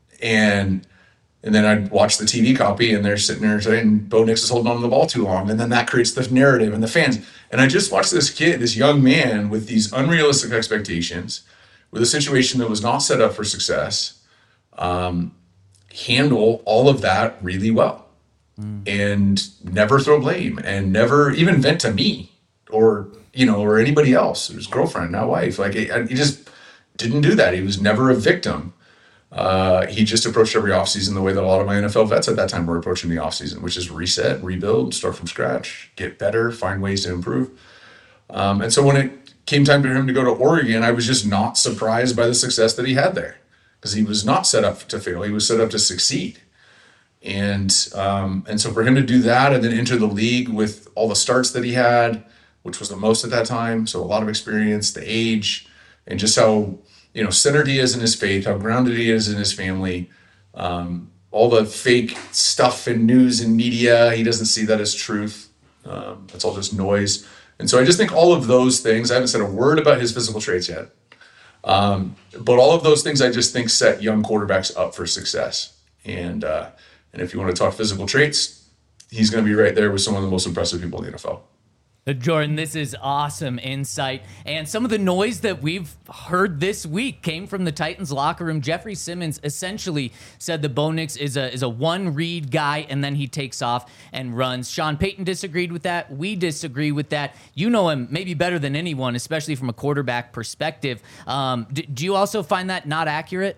Speaker 8: And and then I'd watch the T V copy, and they're sitting there saying Bo Nix is holding on to the ball too long, and then that creates the narrative and the fans. And I just watched this kid, this young man, with these unrealistic expectations, with a situation that was not set up for success, um, handle all of that really well mm. and never throw blame and never even vent to me or, you know, or anybody else, his girlfriend, not wife. Like he, he just didn't do that. He was never a victim. Uh, he just approached every offseason the way that a lot of my N F L vets at that time were approaching the offseason, which is reset, rebuild, start from scratch, get better, find ways to improve. Um, and so when it came time for him to go to Oregon, I was just not surprised by the success that he had there because he was not set up to fail. He was set up to succeed. And um, and so for him to do that and then enter the league with all the starts that he had, which was the most at that time, so a lot of experience, the age, and just how, you know, centered he is in his faith, how grounded he is in his family, um, all the fake stuff in news and media, he doesn't see that as truth. Um, that's all just noise. And so I just think all of those things, I haven't said a word about his physical traits yet, um, but all of those things I just think set young quarterbacks up for success. And uh, and if you want to talk physical traits, he's going to be right there with some of the most impressive people in the N F L.
Speaker 1: Jordan, this is awesome insight. And some of the noise that we've heard this week came from the Titans locker room. Jeffrey Simmons essentially said that Bo Nix is a is a one-read guy, and then he takes off and runs. Sean Payton disagreed with that. We disagree with that. You know him maybe better than anyone, especially from a quarterback perspective. Um, do, do you also find that not accurate?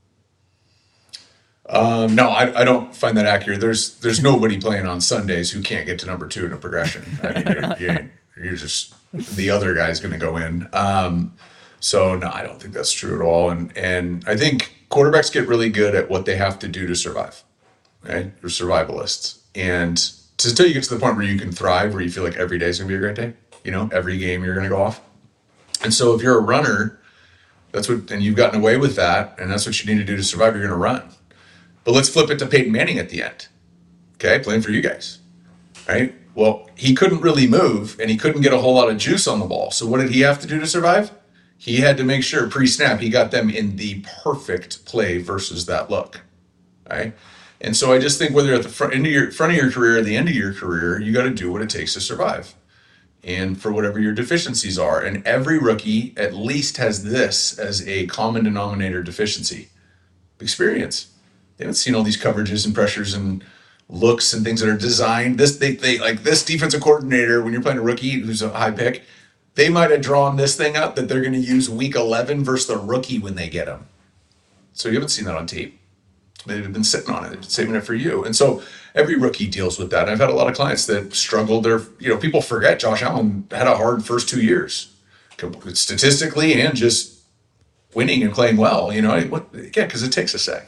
Speaker 8: Um, no, I, I don't find that accurate. There's there's nobody playing on Sundays who can't get to number two in a progression. I mean, you're, you're, you're just the other guy's going to go in. Um, so no, I don't think that's true at all. And and I think quarterbacks get really good at what they have to do to survive. Right, you're survivalists, and to until you get to the point where you can thrive, where you feel like every day is going to be a great day. You know, every game you're going to go off. And so if you're a runner, that's what, and you've gotten away with that, and that's what you need to do to survive. You're going to run. But let's flip it to Peyton Manning at the end. Okay, playing for you guys, right? Well, he couldn't really move, and he couldn't get a whole lot of juice on the ball. So what did he have to do to survive? He had to make sure pre-snap he got them in the perfect play versus that look, right? And so I just think whether you're at the front, end of your, front of your career or the end of your career, you got to do what it takes to survive. And for whatever your deficiencies are. And every rookie at least has this as a common denominator deficiency: experience. They haven't seen all these coverages and pressures and looks and things that are designed. This they they like this defensive coordinator, when you're playing a rookie who's a high pick, they might have drawn this thing up that they're going to use week eleven versus the rookie when they get him. So you haven't seen that on tape. They've been sitting on it, saving it for you. And so every rookie deals with that. And I've had a lot of clients that struggled. They're, you know, people forget Josh Allen had a hard first two years, statistically and just winning and playing well. You know, what, yeah, because it takes a sec.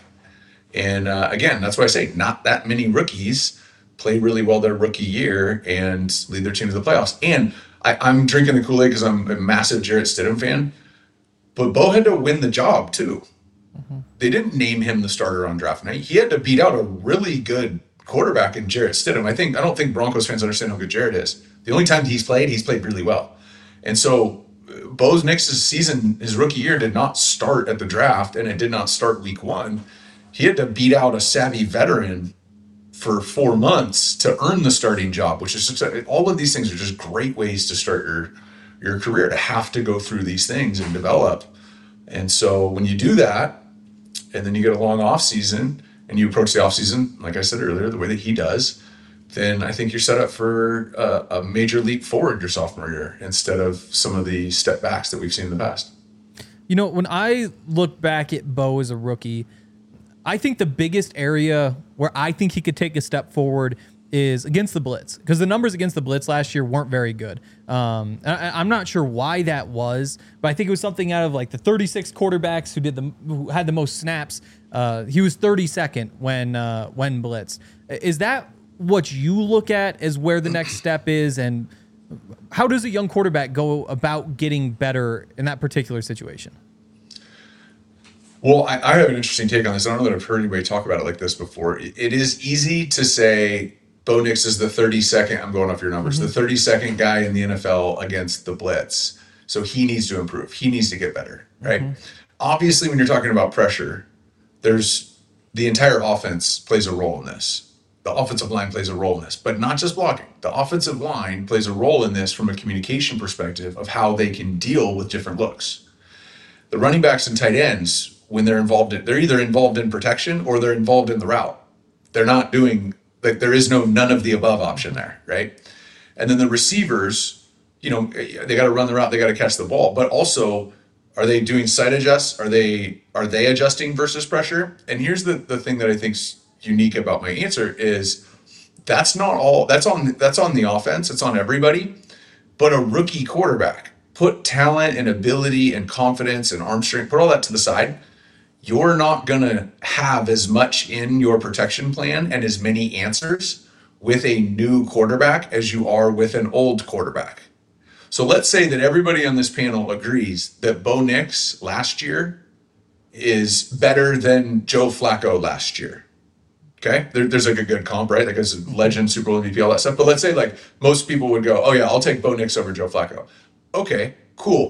Speaker 8: And uh, again, that's why I say not that many rookies play really well their rookie year and lead their team to the playoffs. And I, I'm drinking the Kool-Aid because I'm a massive Jarrett Stidham fan. But Bo had to win the job too. Mm-hmm. They didn't name him the starter on draft night. He had to beat out a really good quarterback in Jarrett Stidham. I think I don't think Broncos fans understand how good Jarrett is. The only time he's played, he's played really well. And so Bo Nix's season, his rookie year, did not start at the draft, and it did not start week one. he had to beat out a savvy veteran for four months to earn the starting job, which is just, all of these things are just great ways to start your your career, to have to go through these things and develop. And so when you do that, and then you get a long off season and you approach the off season, like I said earlier, the way that he does, then I think you're set up for a, a major leap forward your sophomore year instead of some of the step backs that we've seen in the past.
Speaker 3: You know, when I look back at Bo as a rookie, I think the biggest area where I think he could take a step forward is against the blitz, because the numbers against the blitz last year weren't very good. Um, I, I'm not sure why that was, but I think it was something out of like the thirty-six quarterbacks who did the who had the most snaps. Uh, he was thirty-second when uh, when blitz. Is that what you look at as where the next step is, and how does a young quarterback go about getting better in that particular situation?
Speaker 8: Well, I, I have an interesting take on this. I don't know that I've heard anybody talk about it like this before. It, it is easy to say Bo Nix is the thirty-second, I'm going off your numbers, mm-hmm. the thirty-second guy in the N F L against the blitz. So he needs to improve. He needs to get better, right? Mm-hmm. Obviously, when you're talking about pressure, there's the entire offense plays a role in this. The offensive line plays a role in this, but not just blocking. The offensive line plays a role in this from a communication perspective of how they can deal with different looks. The running backs and tight ends, when they're involved in, they're either involved in protection or they're involved in the route. They're not doing, like, there is no none of the above option there, right? And then the receivers, you know, they got to run the route, they got to catch the ball, but also, are they doing side adjusts? Are they are they adjusting versus pressure? And here's the, the thing that I think's unique about my answer is that's not all, that's on that's on the offense, it's on everybody, but a rookie quarterback, put talent and ability and confidence and arm strength, put all that to the side. You're not going to have as much in your protection plan and as many answers with a new quarterback as you are with an old quarterback. So let's say that everybody on this panel agrees that Bo Nix last year is better than Joe Flacco last year. Okay, there, there's like a good comp, right? Like as a legend, Super Bowl M V P, all that stuff. But let's say like most people would go, oh yeah, I'll take Bo Nix over Joe Flacco. Okay, cool.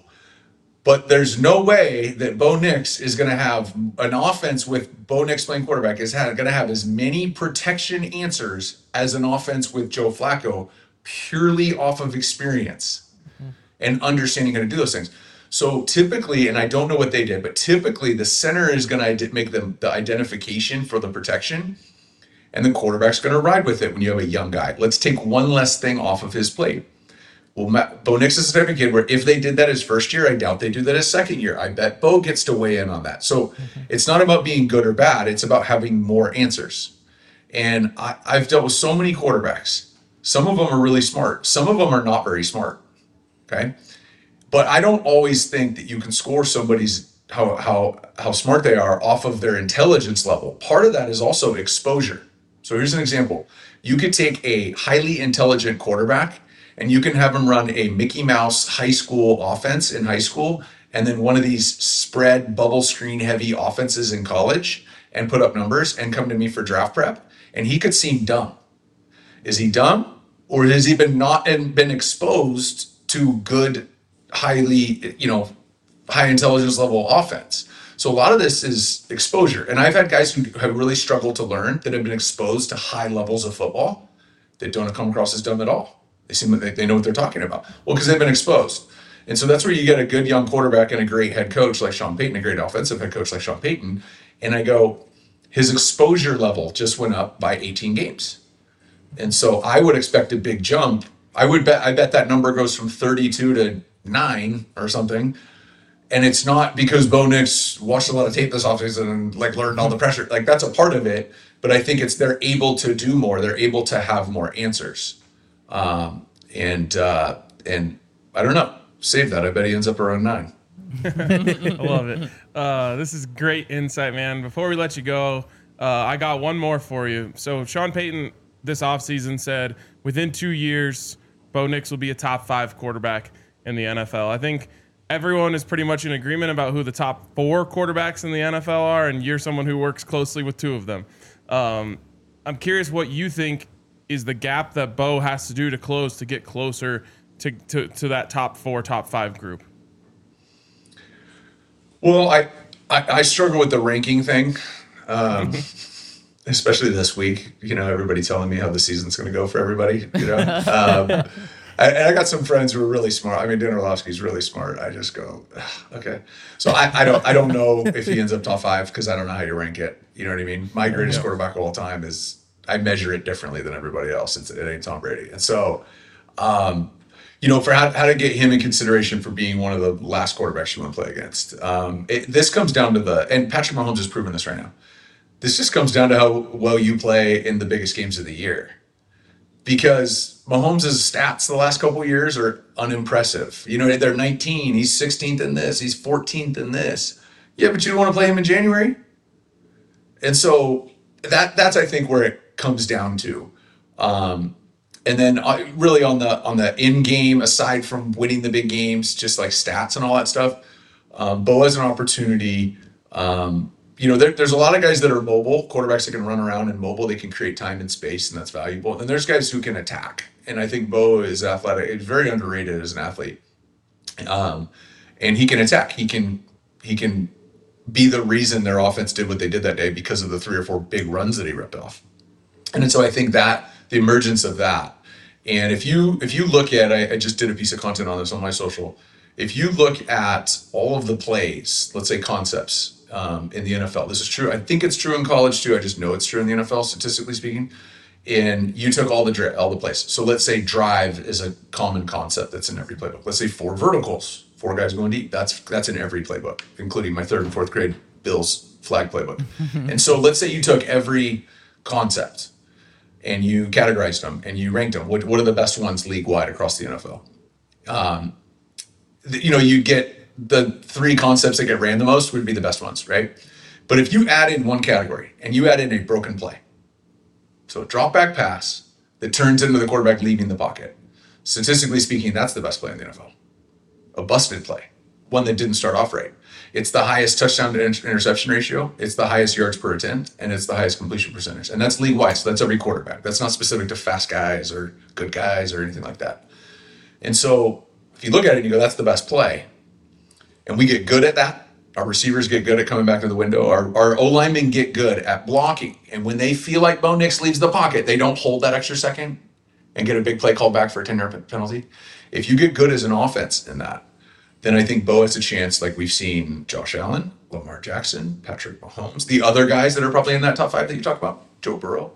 Speaker 8: But there's no way that Bo Nix is going to have an offense with Bo Nix playing quarterback is going to have as many protection answers as an offense with Joe Flacco purely off of experience mm-hmm. and understanding how to do those things. So typically, and I don't know what they did, but typically the center is going to make them the identification for the protection, and the quarterback's going to ride with it when you have a young guy. Let's take one less thing off of his plate. Well, Matt, Bo Nix is the type of kid where if they did that his first year, I doubt they do that his second year. I bet Bo gets to weigh in on that. So mm-hmm. it's not about being good or bad. It's about having more answers. And I, I've dealt with so many quarterbacks. Some of them are really smart. Some of them are not very smart. Okay. But I don't always think that you can score somebody's how how how smart they are off of their intelligence level. Part of that is also exposure. So here's an example. You could take a highly intelligent quarterback and you can have him run a Mickey Mouse high school offense in high school, and then one of these spread bubble screen heavy offenses in college and put up numbers and come to me for draft prep. And he could seem dumb. Is he dumb? Or has he been not and been exposed to good, highly, you know, high intelligence level offense? So a lot of this is exposure. And I've had guys who have really struggled to learn that have been exposed to high levels of football that don't come across as dumb at all. They seem like they know what they're talking about. Well, because they've been exposed. And so that's where you get a good young quarterback and a great head coach like Sean Payton, a great offensive head coach like Sean Payton. And I go, his exposure level just went up by eighteen games. And so I would expect a big jump. I would bet, I bet that number goes from thirty-two to nine or something. And it's not because Bo Nix watched a lot of tape this offseason and like learned all the pressure. Like that's a part of it. But I think it's they're able to do more. They're able to have more answers. Um, and, uh, and I don't know, save that. I bet he ends up around nine.
Speaker 2: I love it. Uh, this is great insight, man. Before we let you go, uh, I got one more for you. So Sean Payton this offseason said within two years, Bo Nix will be a top five quarterback in the N F L. I think everyone is pretty much in agreement about who the top four quarterbacks in the N F L are, and you're someone who works closely with two of them. Um, I'm curious what you think is the gap that Bo has to do to close to get closer to, to, to that top four, top five group.
Speaker 8: Well, I, I, I struggle with the ranking thing. Um, especially this week, you know, everybody telling me how the season's going to go for everybody, you know. um, I, and I got some friends who are really smart. I mean, Dan Orlovsky's really smart. I just go, okay. So I, I don't I don't know if he ends up top five because I don't know how you rank it. You know what I mean? My greatest yeah. quarterback of all time is, I measure it differently than everybody else. It's, it ain't Tom Brady. And so, um, you know, for how, how to get him in consideration for being one of the last quarterbacks you want to play against. Um, it, this comes down to the, and Patrick Mahomes has proven this right now. This just comes down to how well you play in the biggest games of the year. Because Mahomes' stats the last couple of years are unimpressive. You know, they're nineteen, he's sixteenth in this, he's fourteenth in this. Yeah, but you don't want to play him in January? And so that that's, I think, where it comes down to. Um, and then uh, really on the on the in-game, aside from winning the big games, just like stats and all that stuff, um, Bo has an opportunity. Um, You know, there, there's a lot of guys that are mobile, quarterbacks that can run around and mobile. They can create time and space, and that's valuable. And there's guys who can attack. And I think Bo is athletic. He's very underrated as an athlete. Um, and he can attack. He can he can be the reason their offense did what they did that day because of the three or four big runs that he ripped off. And so I think that the emergence of that. And if you if you look at, I, I just did a piece of content on this on my social. If you look at all of the plays, let's say concepts, Um, in the N F L. This is true. I think it's true in college too. I just know it's true in the N F L, statistically speaking. And you took all the dri- all the plays. So let's say drive is a common concept that's in every playbook. Let's say four verticals, four guys going deep. That's that's in every playbook, including my third and fourth grade Bills flag playbook. And so let's say you took every concept and you categorized them and you ranked them. What what are the best ones league wide across the N F L? Um, th- you know, you get the three concepts that get ran the most would be the best ones, right? But if you add in one category and you add in a broken play, so a drop back pass that turns into the quarterback leaving the pocket, statistically speaking, that's the best play in the N F L. A busted play, one that didn't start off right. It's the highest touchdown to inter- interception ratio. It's the highest yards per attempt, and it's the highest completion percentage. And that's league wide. So that's every quarterback. That's not specific to fast guys or good guys or anything like that. And so if you look at it and you go, that's the best play. And we get good at that. Our receivers get good at coming back to the window. Our, our O-linemen get good at blocking. And when they feel like Bo Nix leaves the pocket, they don't hold that extra second and get a big play called back for a ten-yard penalty. If you get good as an offense in that, then I think Bo has a chance, like we've seen Josh Allen, Lamar Jackson, Patrick Mahomes, the other guys that are probably in that top five that you talk about, Joe Burrow,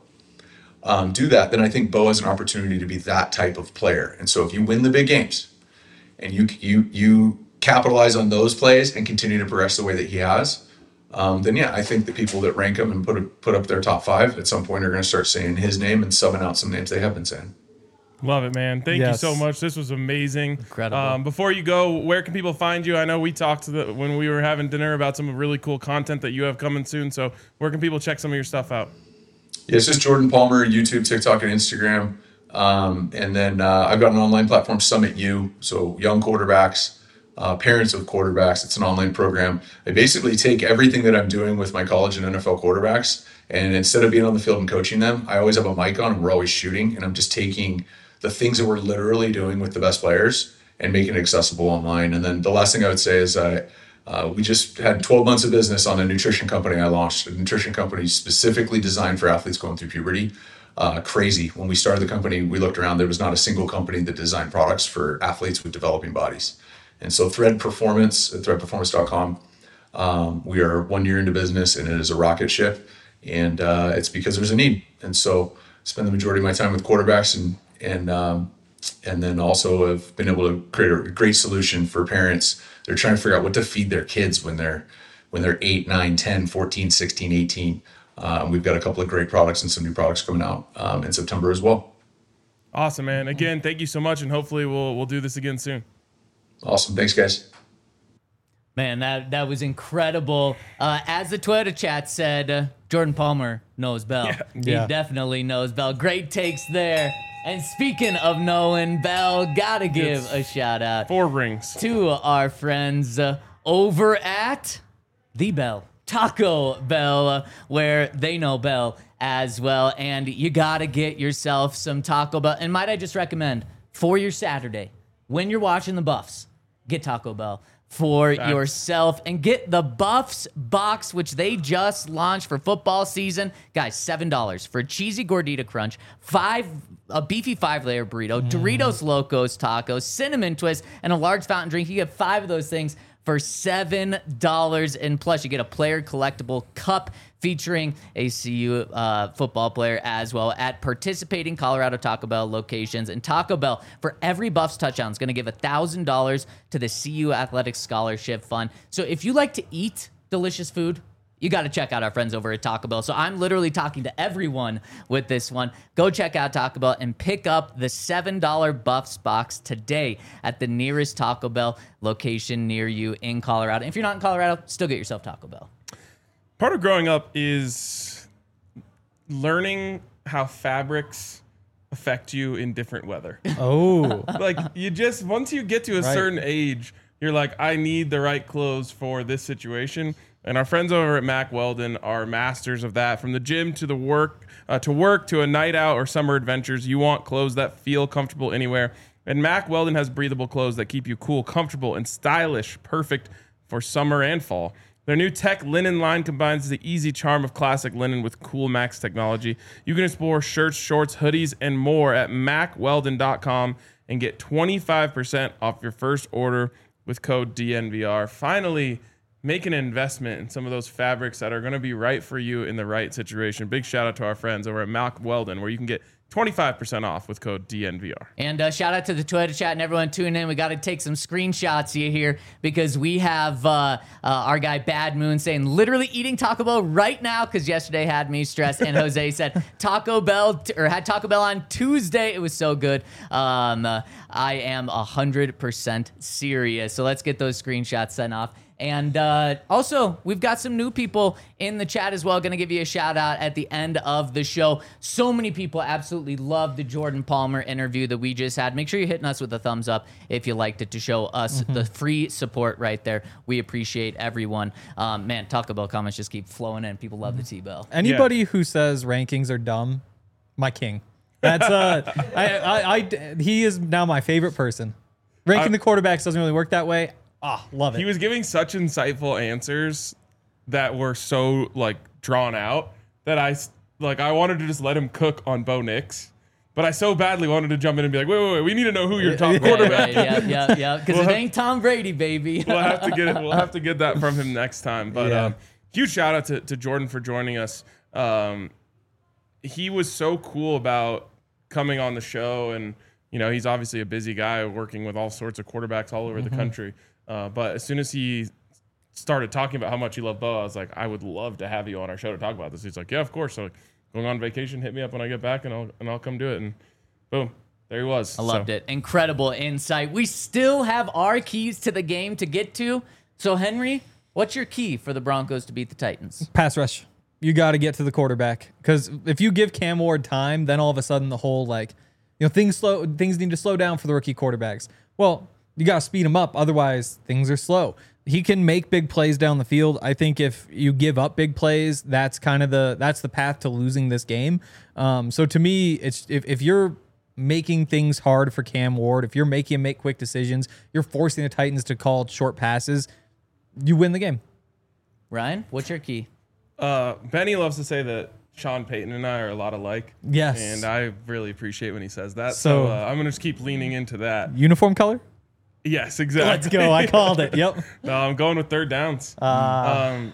Speaker 8: um, do that. Then I think Bo has an opportunity to be that type of player. And so if you win the big games and you you you capitalize on those plays and continue to progress the way that he has, um, then yeah, I think the people that rank him and put a, put up their top five at some point are going to start saying his name and subbing out some names they have been saying.
Speaker 2: Love it, man. Thank yes. you so much. This was amazing.
Speaker 1: Incredible.
Speaker 2: Um, before you go, where can people find you? I know we talked to the, when we were having dinner about some really cool content that you have coming soon. So where can people check some of your stuff out?
Speaker 8: Yeah, it's just Jordan Palmer, YouTube, TikTok, and Instagram. Um, and then uh, I've got an online platform, Summit U. So young quarterbacks, Uh, parents of quarterbacks. It's an online program. I basically take everything that I'm doing with my college and N F L quarterbacks, and instead of being on the field and coaching them, I always have a mic on and we're always shooting, and I'm just taking the things that we're literally doing with the best players and making it accessible online. And then the last thing I would say is uh, uh, we just had twelve months of business on a nutrition company I launched, a nutrition company specifically designed for athletes going through puberty. Uh, crazy. When we started the company, we looked around, there was not a single company that designed products for athletes with developing bodies. And so Thread Performance at thread performance dot com, um, we are one year into business and it is a rocket ship. And uh, it's because there's a need. And so I spend the majority of my time with quarterbacks and and um, and then also have been able to create a great solution for parents. They're trying to figure out what to feed their kids when they're when they're eight, nine, ten, fourteen, sixteen, eighteen. Uh, we've got a couple of great products and some new products coming out um, in September as well.
Speaker 2: Awesome, man. Again, thank you so much. And hopefully we'll we'll do this again soon.
Speaker 8: Awesome. Thanks, guys.
Speaker 1: Man, that that was incredible. Uh, as the Twitter chat said, uh, Jordan Palmer knows Bell.
Speaker 2: Yeah.
Speaker 1: He
Speaker 3: Yeah.
Speaker 1: definitely knows Bell. Great takes there. And speaking of knowing Bell, gotta give
Speaker 2: It's
Speaker 1: a shout out
Speaker 2: Four rings.
Speaker 1: to our friends uh, over at The Bell, Taco Bell, uh, where they know Bell as well. And you gotta get yourself some Taco Bell. And might I just recommend for your Saturday, when you're watching the Buffs, get Taco Bell. for
Speaker 2: Facts.
Speaker 1: yourself and get the Buffs box, which they just launched for football season. Guys, seven dollars for a cheesy gordita crunch, five a beefy five-layer burrito, Doritos Locos tacos, cinnamon twist, and a large fountain drink. You get five of those things for seven dollars, and plus you get a player collectible cup featuring a C U uh, football player as well at participating Colorado Taco Bell locations. And Taco Bell, for every Buffs touchdown, is going to give one thousand dollars to the C U Athletic Scholarship Fund. So if you like to eat delicious food, you got to check out our friends over at Taco Bell. So I'm literally talking to everyone with this one. Go check out Taco Bell and pick up the seven dollar Buffs box today at the nearest Taco Bell location near you in Colorado. If you're not in Colorado, still get yourself Taco Bell.
Speaker 2: Part of growing up is learning how fabrics affect you in different weather.
Speaker 3: Oh,
Speaker 2: Like, you just, once you get to a
Speaker 3: Right.
Speaker 2: certain age, you're like, I need the right clothes for this situation. And our friends over at Mack Weldon are masters of that. From the gym to the work, uh, to work to a night out or summer adventures, you want clothes that feel comfortable anywhere. And Mack Weldon has breathable clothes that keep you cool, comfortable, and stylish, perfect for summer and fall. Their new tech linen line combines the easy charm of classic linen with cool Max technology. You can explore shirts, shorts, hoodies, and more at mack weldon dot com and get twenty-five percent off your first order with code D N V R. Finally, make an investment in some of those fabrics that are going to be right for you in the right situation. Big shout out to our friends over at Mack Weldon, where you can get twenty-five percent off with code D N V R.
Speaker 1: And uh, shout out to the Twitter chat and everyone tuning in. We got to take some screenshots here because we have uh, uh, our guy Bad Moon saying literally eating Taco Bell right now because yesterday had me stressed. And Jose said Taco Bell t- or had Taco Bell on Tuesday. It was so good. Um, uh, I am one hundred percent serious. So let's get those screenshots sent off. And uh, also, we've got some new people in the chat as well. Going to give you a shout out at the end of the show. So many people absolutely loved the Jordan Palmer interview that we just had. Make sure you're hitting us with a thumbs up if you liked it to show us
Speaker 3: Mm-hmm.
Speaker 1: the free support right there. We appreciate everyone. Um, man, Taco Bell comments just keep flowing in. People love the T-Bell.
Speaker 3: anybody who says rankings are dumb, my king. That's uh, I, I, I, he is now my favorite person. Ranking
Speaker 2: I-
Speaker 3: the quarterbacks doesn't really work that way. Ah, love it.
Speaker 2: He was giving such insightful answers that were so like drawn out that I s- like I wanted to just let him cook on Bo Nix, but I so badly wanted to jump in and be like, wait, wait, wait, we need to know who your top
Speaker 1: Right,
Speaker 2: quarterback.
Speaker 1: right, yeah, yeah, yeah. Because
Speaker 2: We'll
Speaker 1: it
Speaker 2: have-
Speaker 1: ain't Tom Brady, baby.
Speaker 2: We'll have to get it. We'll have to get that from him next time. But
Speaker 3: Yeah.
Speaker 2: um, huge shout out to, to Jordan for joining us. Um, he was so cool about coming on the show, and you know he's obviously a busy guy working with all sorts of quarterbacks all over the country. Uh, but as soon as he started talking about how much he loved Bo, I was like, I would love to have you on our show to talk about this. He's like, yeah, of course. So going on vacation, hit me up when I get back, and I'll and I'll come do it. And boom, there he was.
Speaker 1: I loved it. Incredible insight. We still have our keys to the game to get to. So, Henry, what's your key for the Broncos to beat the Titans?
Speaker 3: Pass rush. You got to get to the quarterback because if you give Cam Ward time, then all of a sudden the whole like, you know, things slow. Things need to slow down for the rookie quarterbacks. Well, you got to speed him up. Otherwise, things are slow. He can make big plays down the field. I think if you give up big plays, that's kind of the that's the path to losing this game. Um, so to me, it's if, if you're making things hard for Cam Ward, if you're making him make quick decisions, you're forcing the Titans to call short passes, you win the game.
Speaker 1: Ryan, what's your key?
Speaker 2: Uh, Benny loves to say that Sean Payton and I are a lot alike.
Speaker 3: Yes.
Speaker 2: And I really appreciate when he says that. So,
Speaker 3: So-
Speaker 2: uh, I'm going to just keep leaning into that.
Speaker 3: Uniform color?
Speaker 2: Yes, exactly.
Speaker 3: Let's go. I called it. Yep.
Speaker 2: No, I'm going with third downs.
Speaker 3: Uh,
Speaker 2: um,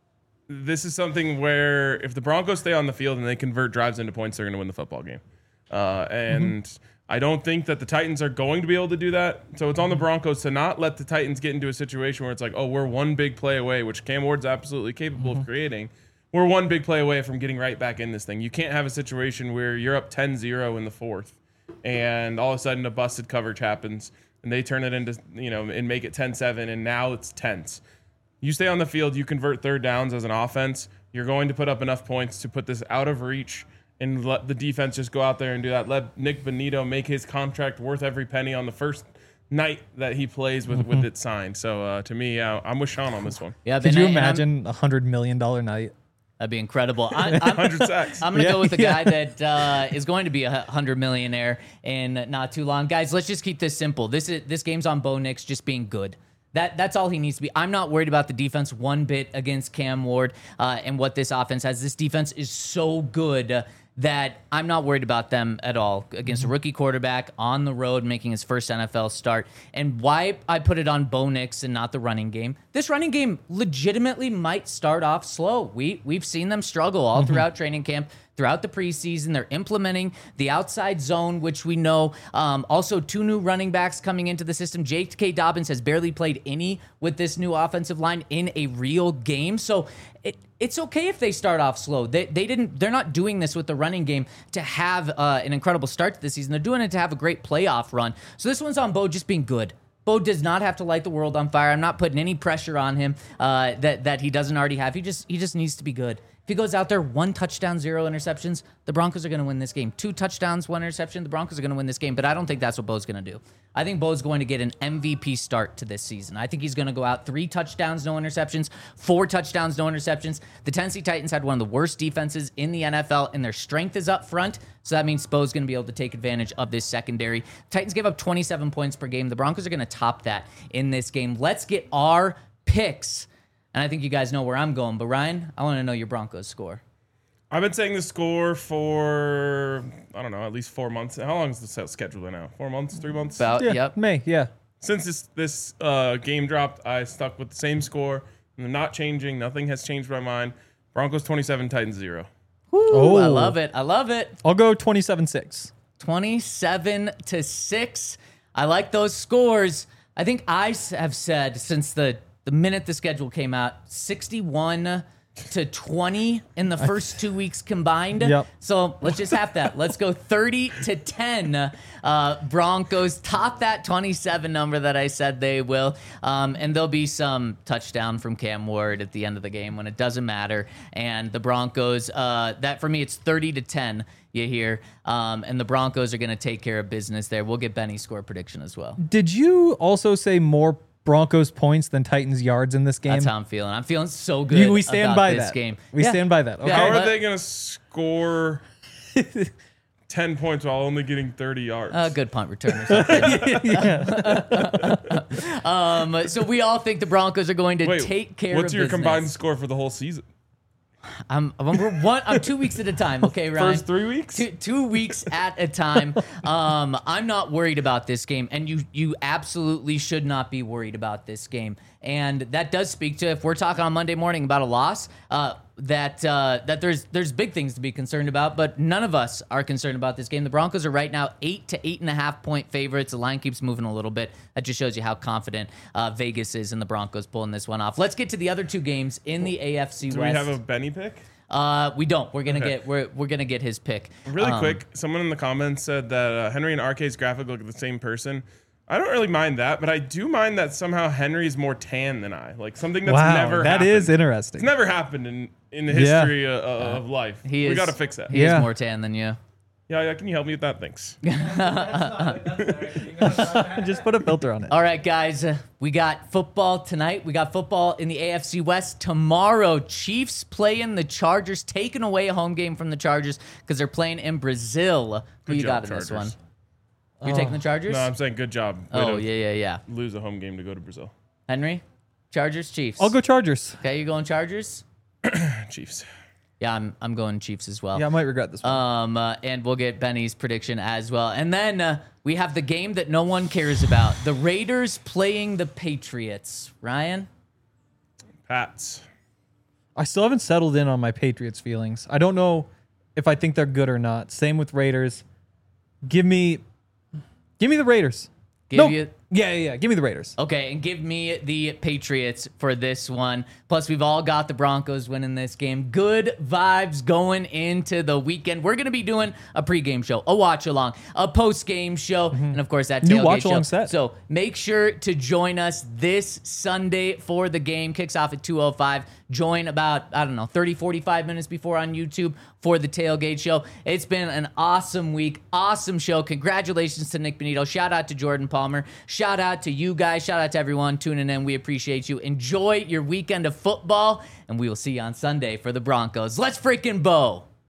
Speaker 2: this is something where if the Broncos stay on the field and they convert drives into points, they're going to win the football game. Uh, and
Speaker 3: Mm-hmm.
Speaker 2: I don't think that the Titans are going to be able to do that. So it's on the Broncos to not let the Titans get into a situation where it's like, oh, we're one big play away, which Cam Ward's absolutely capable
Speaker 3: Mm-hmm.
Speaker 2: of creating. We're one big play away from getting right back in this thing. You can't have a situation where you're up ten zero in the fourth and all of a sudden a busted coverage happens and they turn it into, you know, and make it ten seven and now it's tense. You stay on the field, you convert third downs as an offense, you're going to put up enough points to put this out of reach and let the defense just go out there and do that. Let Nick Bonito make his contract worth every penny on the first night that he plays with, with it signed. So uh, to me, uh, I'm with Sean on this one.
Speaker 1: Yeah,
Speaker 3: could
Speaker 1: and
Speaker 3: you
Speaker 1: I- and I'm-
Speaker 3: imagine a hundred million dollar night?
Speaker 1: That'd be incredible. I, I'm,
Speaker 2: one hundred sacks.
Speaker 1: I'm gonna
Speaker 3: Yeah,
Speaker 1: go with a
Speaker 3: yeah.
Speaker 1: guy that uh, is going to be a hundred millionaire in not too long. Guys, let's just keep this simple. This is this game's on Bo Nix just being good. That that's all he needs to be. I'm not worried about the defense one bit against Cam Ward uh, and what this offense has. This defense is so good uh, that I'm not worried about them at all against a rookie quarterback on the road making his first N F L start. And why I put it on Bo Nix and not the running game. This running game legitimately might start off slow. We we've seen them struggle all throughout training camp. Throughout the preseason, they're implementing the outside zone, which we know. Um, also, two new running backs coming into the system. J K. Dobbins has barely played any with this new offensive line in a real game. So it, it's okay if they start off slow. They they didn't. They're not doing this with the running game to have uh, an incredible start to the season. They're doing it to have a great playoff run. So this one's on Bo just being good. Bo does not have to light the world on fire. I'm not putting any pressure on him uh, that that he doesn't already have. He just he just needs to be good. If he goes out there, one touchdown, zero interceptions, the Broncos are going to win this game. Two touchdowns, one interception, the Broncos are going to win this game. But I don't think that's what Bo's going to do. I think Bo's going to get an M V P start to this season. I think he's going to go out three touchdowns, no interceptions, four touchdowns, no interceptions. The Tennessee Titans had one of the worst defenses in the N F L, and their strength is up front. So that means Bo's going to be able to take advantage of this secondary. Titans give up twenty-seven points per game. The Broncos are going to top that in this game. Let's get our picks. And I think you guys know where I'm going. But, Ryan, I want to know your Broncos score.
Speaker 2: I've been saying the score for, I don't know, at least four months. How long is the schedule now? Four months? Three months?
Speaker 1: About,
Speaker 3: Yeah,
Speaker 1: yep.
Speaker 3: May, yeah.
Speaker 2: Since this, this uh, game dropped, I stuck with the same score. And they're not changing. Nothing has changed my mind. Broncos twenty-seven, Titans zero.
Speaker 1: Woo,
Speaker 3: Oh.
Speaker 1: I love it. I love it.
Speaker 3: I'll go twenty-seven six.
Speaker 1: twenty-seven to six. I like those scores. I think I s- have said since the, the minute the schedule came out, sixty-one to twenty in the first two weeks combined.
Speaker 3: Yep.
Speaker 1: So let's just have that. Let's go thirty to ten. Uh, Broncos top that twenty-seven number that I said they will. Um, and there'll be some touchdown from Cam Ward at the end of the game when it doesn't matter. And the Broncos, uh, that for me, it's thirty to ten. You hear, um, and the Broncos are going to take care of business there. We'll get Benny's score prediction as well.
Speaker 3: Did you also say more Broncos points than Titans yards in this game?
Speaker 1: That's how I'm feeling. I'm feeling so good.
Speaker 3: You- we stand
Speaker 1: about
Speaker 3: by
Speaker 1: this
Speaker 3: that.
Speaker 1: game.
Speaker 3: We
Speaker 1: Yeah.
Speaker 3: stand by that. Okay.
Speaker 1: Yeah.
Speaker 2: How are
Speaker 1: but-
Speaker 2: they going to score ten points while only getting thirty yards?
Speaker 1: A good punt return or something. um, so we all think the Broncos are going to
Speaker 2: Wait,
Speaker 1: take care
Speaker 2: what's
Speaker 1: of
Speaker 2: your
Speaker 1: business.
Speaker 2: combined score for the whole season?
Speaker 1: I'm, I'm, we're one, I'm two weeks at a time, okay, Ryan?
Speaker 2: First three weeks?
Speaker 1: Two, two weeks at a time. Um, I'm not worried about this game, and you you absolutely should not be worried about this game. And that does speak to, if we're talking on Monday morning about a loss, uh, that uh, that there's there's big things to be concerned about, but none of us are concerned about this game. The Broncos are right now eight to eight and a half point favorites. The line keeps moving a little bit. That just shows you how confident uh, Vegas is in the Broncos pulling this one off. Let's get to the other two games in the A F C
Speaker 2: Do
Speaker 1: West.
Speaker 2: we have a Benny pick?
Speaker 1: Uh, we don't. We're gonna
Speaker 2: Okay.
Speaker 1: get we're we're gonna get his pick.
Speaker 2: Really
Speaker 1: Um,
Speaker 2: quick, someone in the comments said that uh, Henry and R K's graphic look like the same person. I don't really mind that, but I do mind that somehow Henry's more tan than I. Like something that's
Speaker 3: Wow,
Speaker 2: never
Speaker 3: that
Speaker 2: happened.
Speaker 3: is interesting.
Speaker 2: It's never happened in, in the
Speaker 3: Yeah.
Speaker 2: history uh, uh, of life.
Speaker 1: He
Speaker 2: we
Speaker 1: is,
Speaker 2: got to fix that.
Speaker 1: He
Speaker 3: Yeah.
Speaker 1: is more tan than you.
Speaker 2: Yeah, yeah, can you help me with that? Thanks.
Speaker 3: Just put a filter on it.
Speaker 1: All right, guys. Uh, we got football tonight. We got football in the A F C West tomorrow. Chiefs playing the Chargers, taking away a home game from the Chargers because they're playing in Brazil. Who
Speaker 2: Good
Speaker 1: you
Speaker 2: job,
Speaker 1: got in this one?
Speaker 2: Chargers.
Speaker 1: You're taking the Chargers?
Speaker 2: No, I'm saying good job. Way
Speaker 1: oh,
Speaker 2: to
Speaker 1: yeah, yeah, yeah.
Speaker 2: Lose a home game to go to Brazil.
Speaker 1: Henry? Chargers, Chiefs.
Speaker 3: I'll go Chargers.
Speaker 1: Okay, you going Chargers?
Speaker 2: Chiefs.
Speaker 1: Yeah, I'm I'm going Chiefs as well.
Speaker 3: Yeah, I might regret this one.
Speaker 1: Um, uh, and we'll get Benny's prediction as well. And then uh, we have the game that no one cares about. The Raiders playing the Patriots. Ryan?
Speaker 2: Pats.
Speaker 3: I still haven't settled in on my Patriots feelings. I don't know if I think they're good or not. Same with Raiders. Give me, give me the Raiders.
Speaker 1: Give
Speaker 3: no,
Speaker 1: you-
Speaker 3: yeah, yeah, yeah. Give me the Raiders.
Speaker 1: Okay, and give me the Patriots for this one. Plus, we've all got the Broncos winning this game. Good vibes going into the weekend. We're going to be doing a pregame show, a watch-along, a post-game show, and, of course, that
Speaker 3: New
Speaker 1: tailgate
Speaker 3: watch-along
Speaker 1: show.
Speaker 3: set.
Speaker 1: So make sure to join us this Sunday for the game. Kicks off at two oh five. Join about, I don't know, thirty, forty-five minutes before on YouTube for the tailgate show. It's been an awesome week, awesome show. Congratulations to Nick Benito. Shout out to Jordan Palmer. Shout out to you guys. Shout out to everyone tuning in. We appreciate you. Enjoy your weekend of football, and we will see you on Sunday for the Broncos. Let's freaking Bo.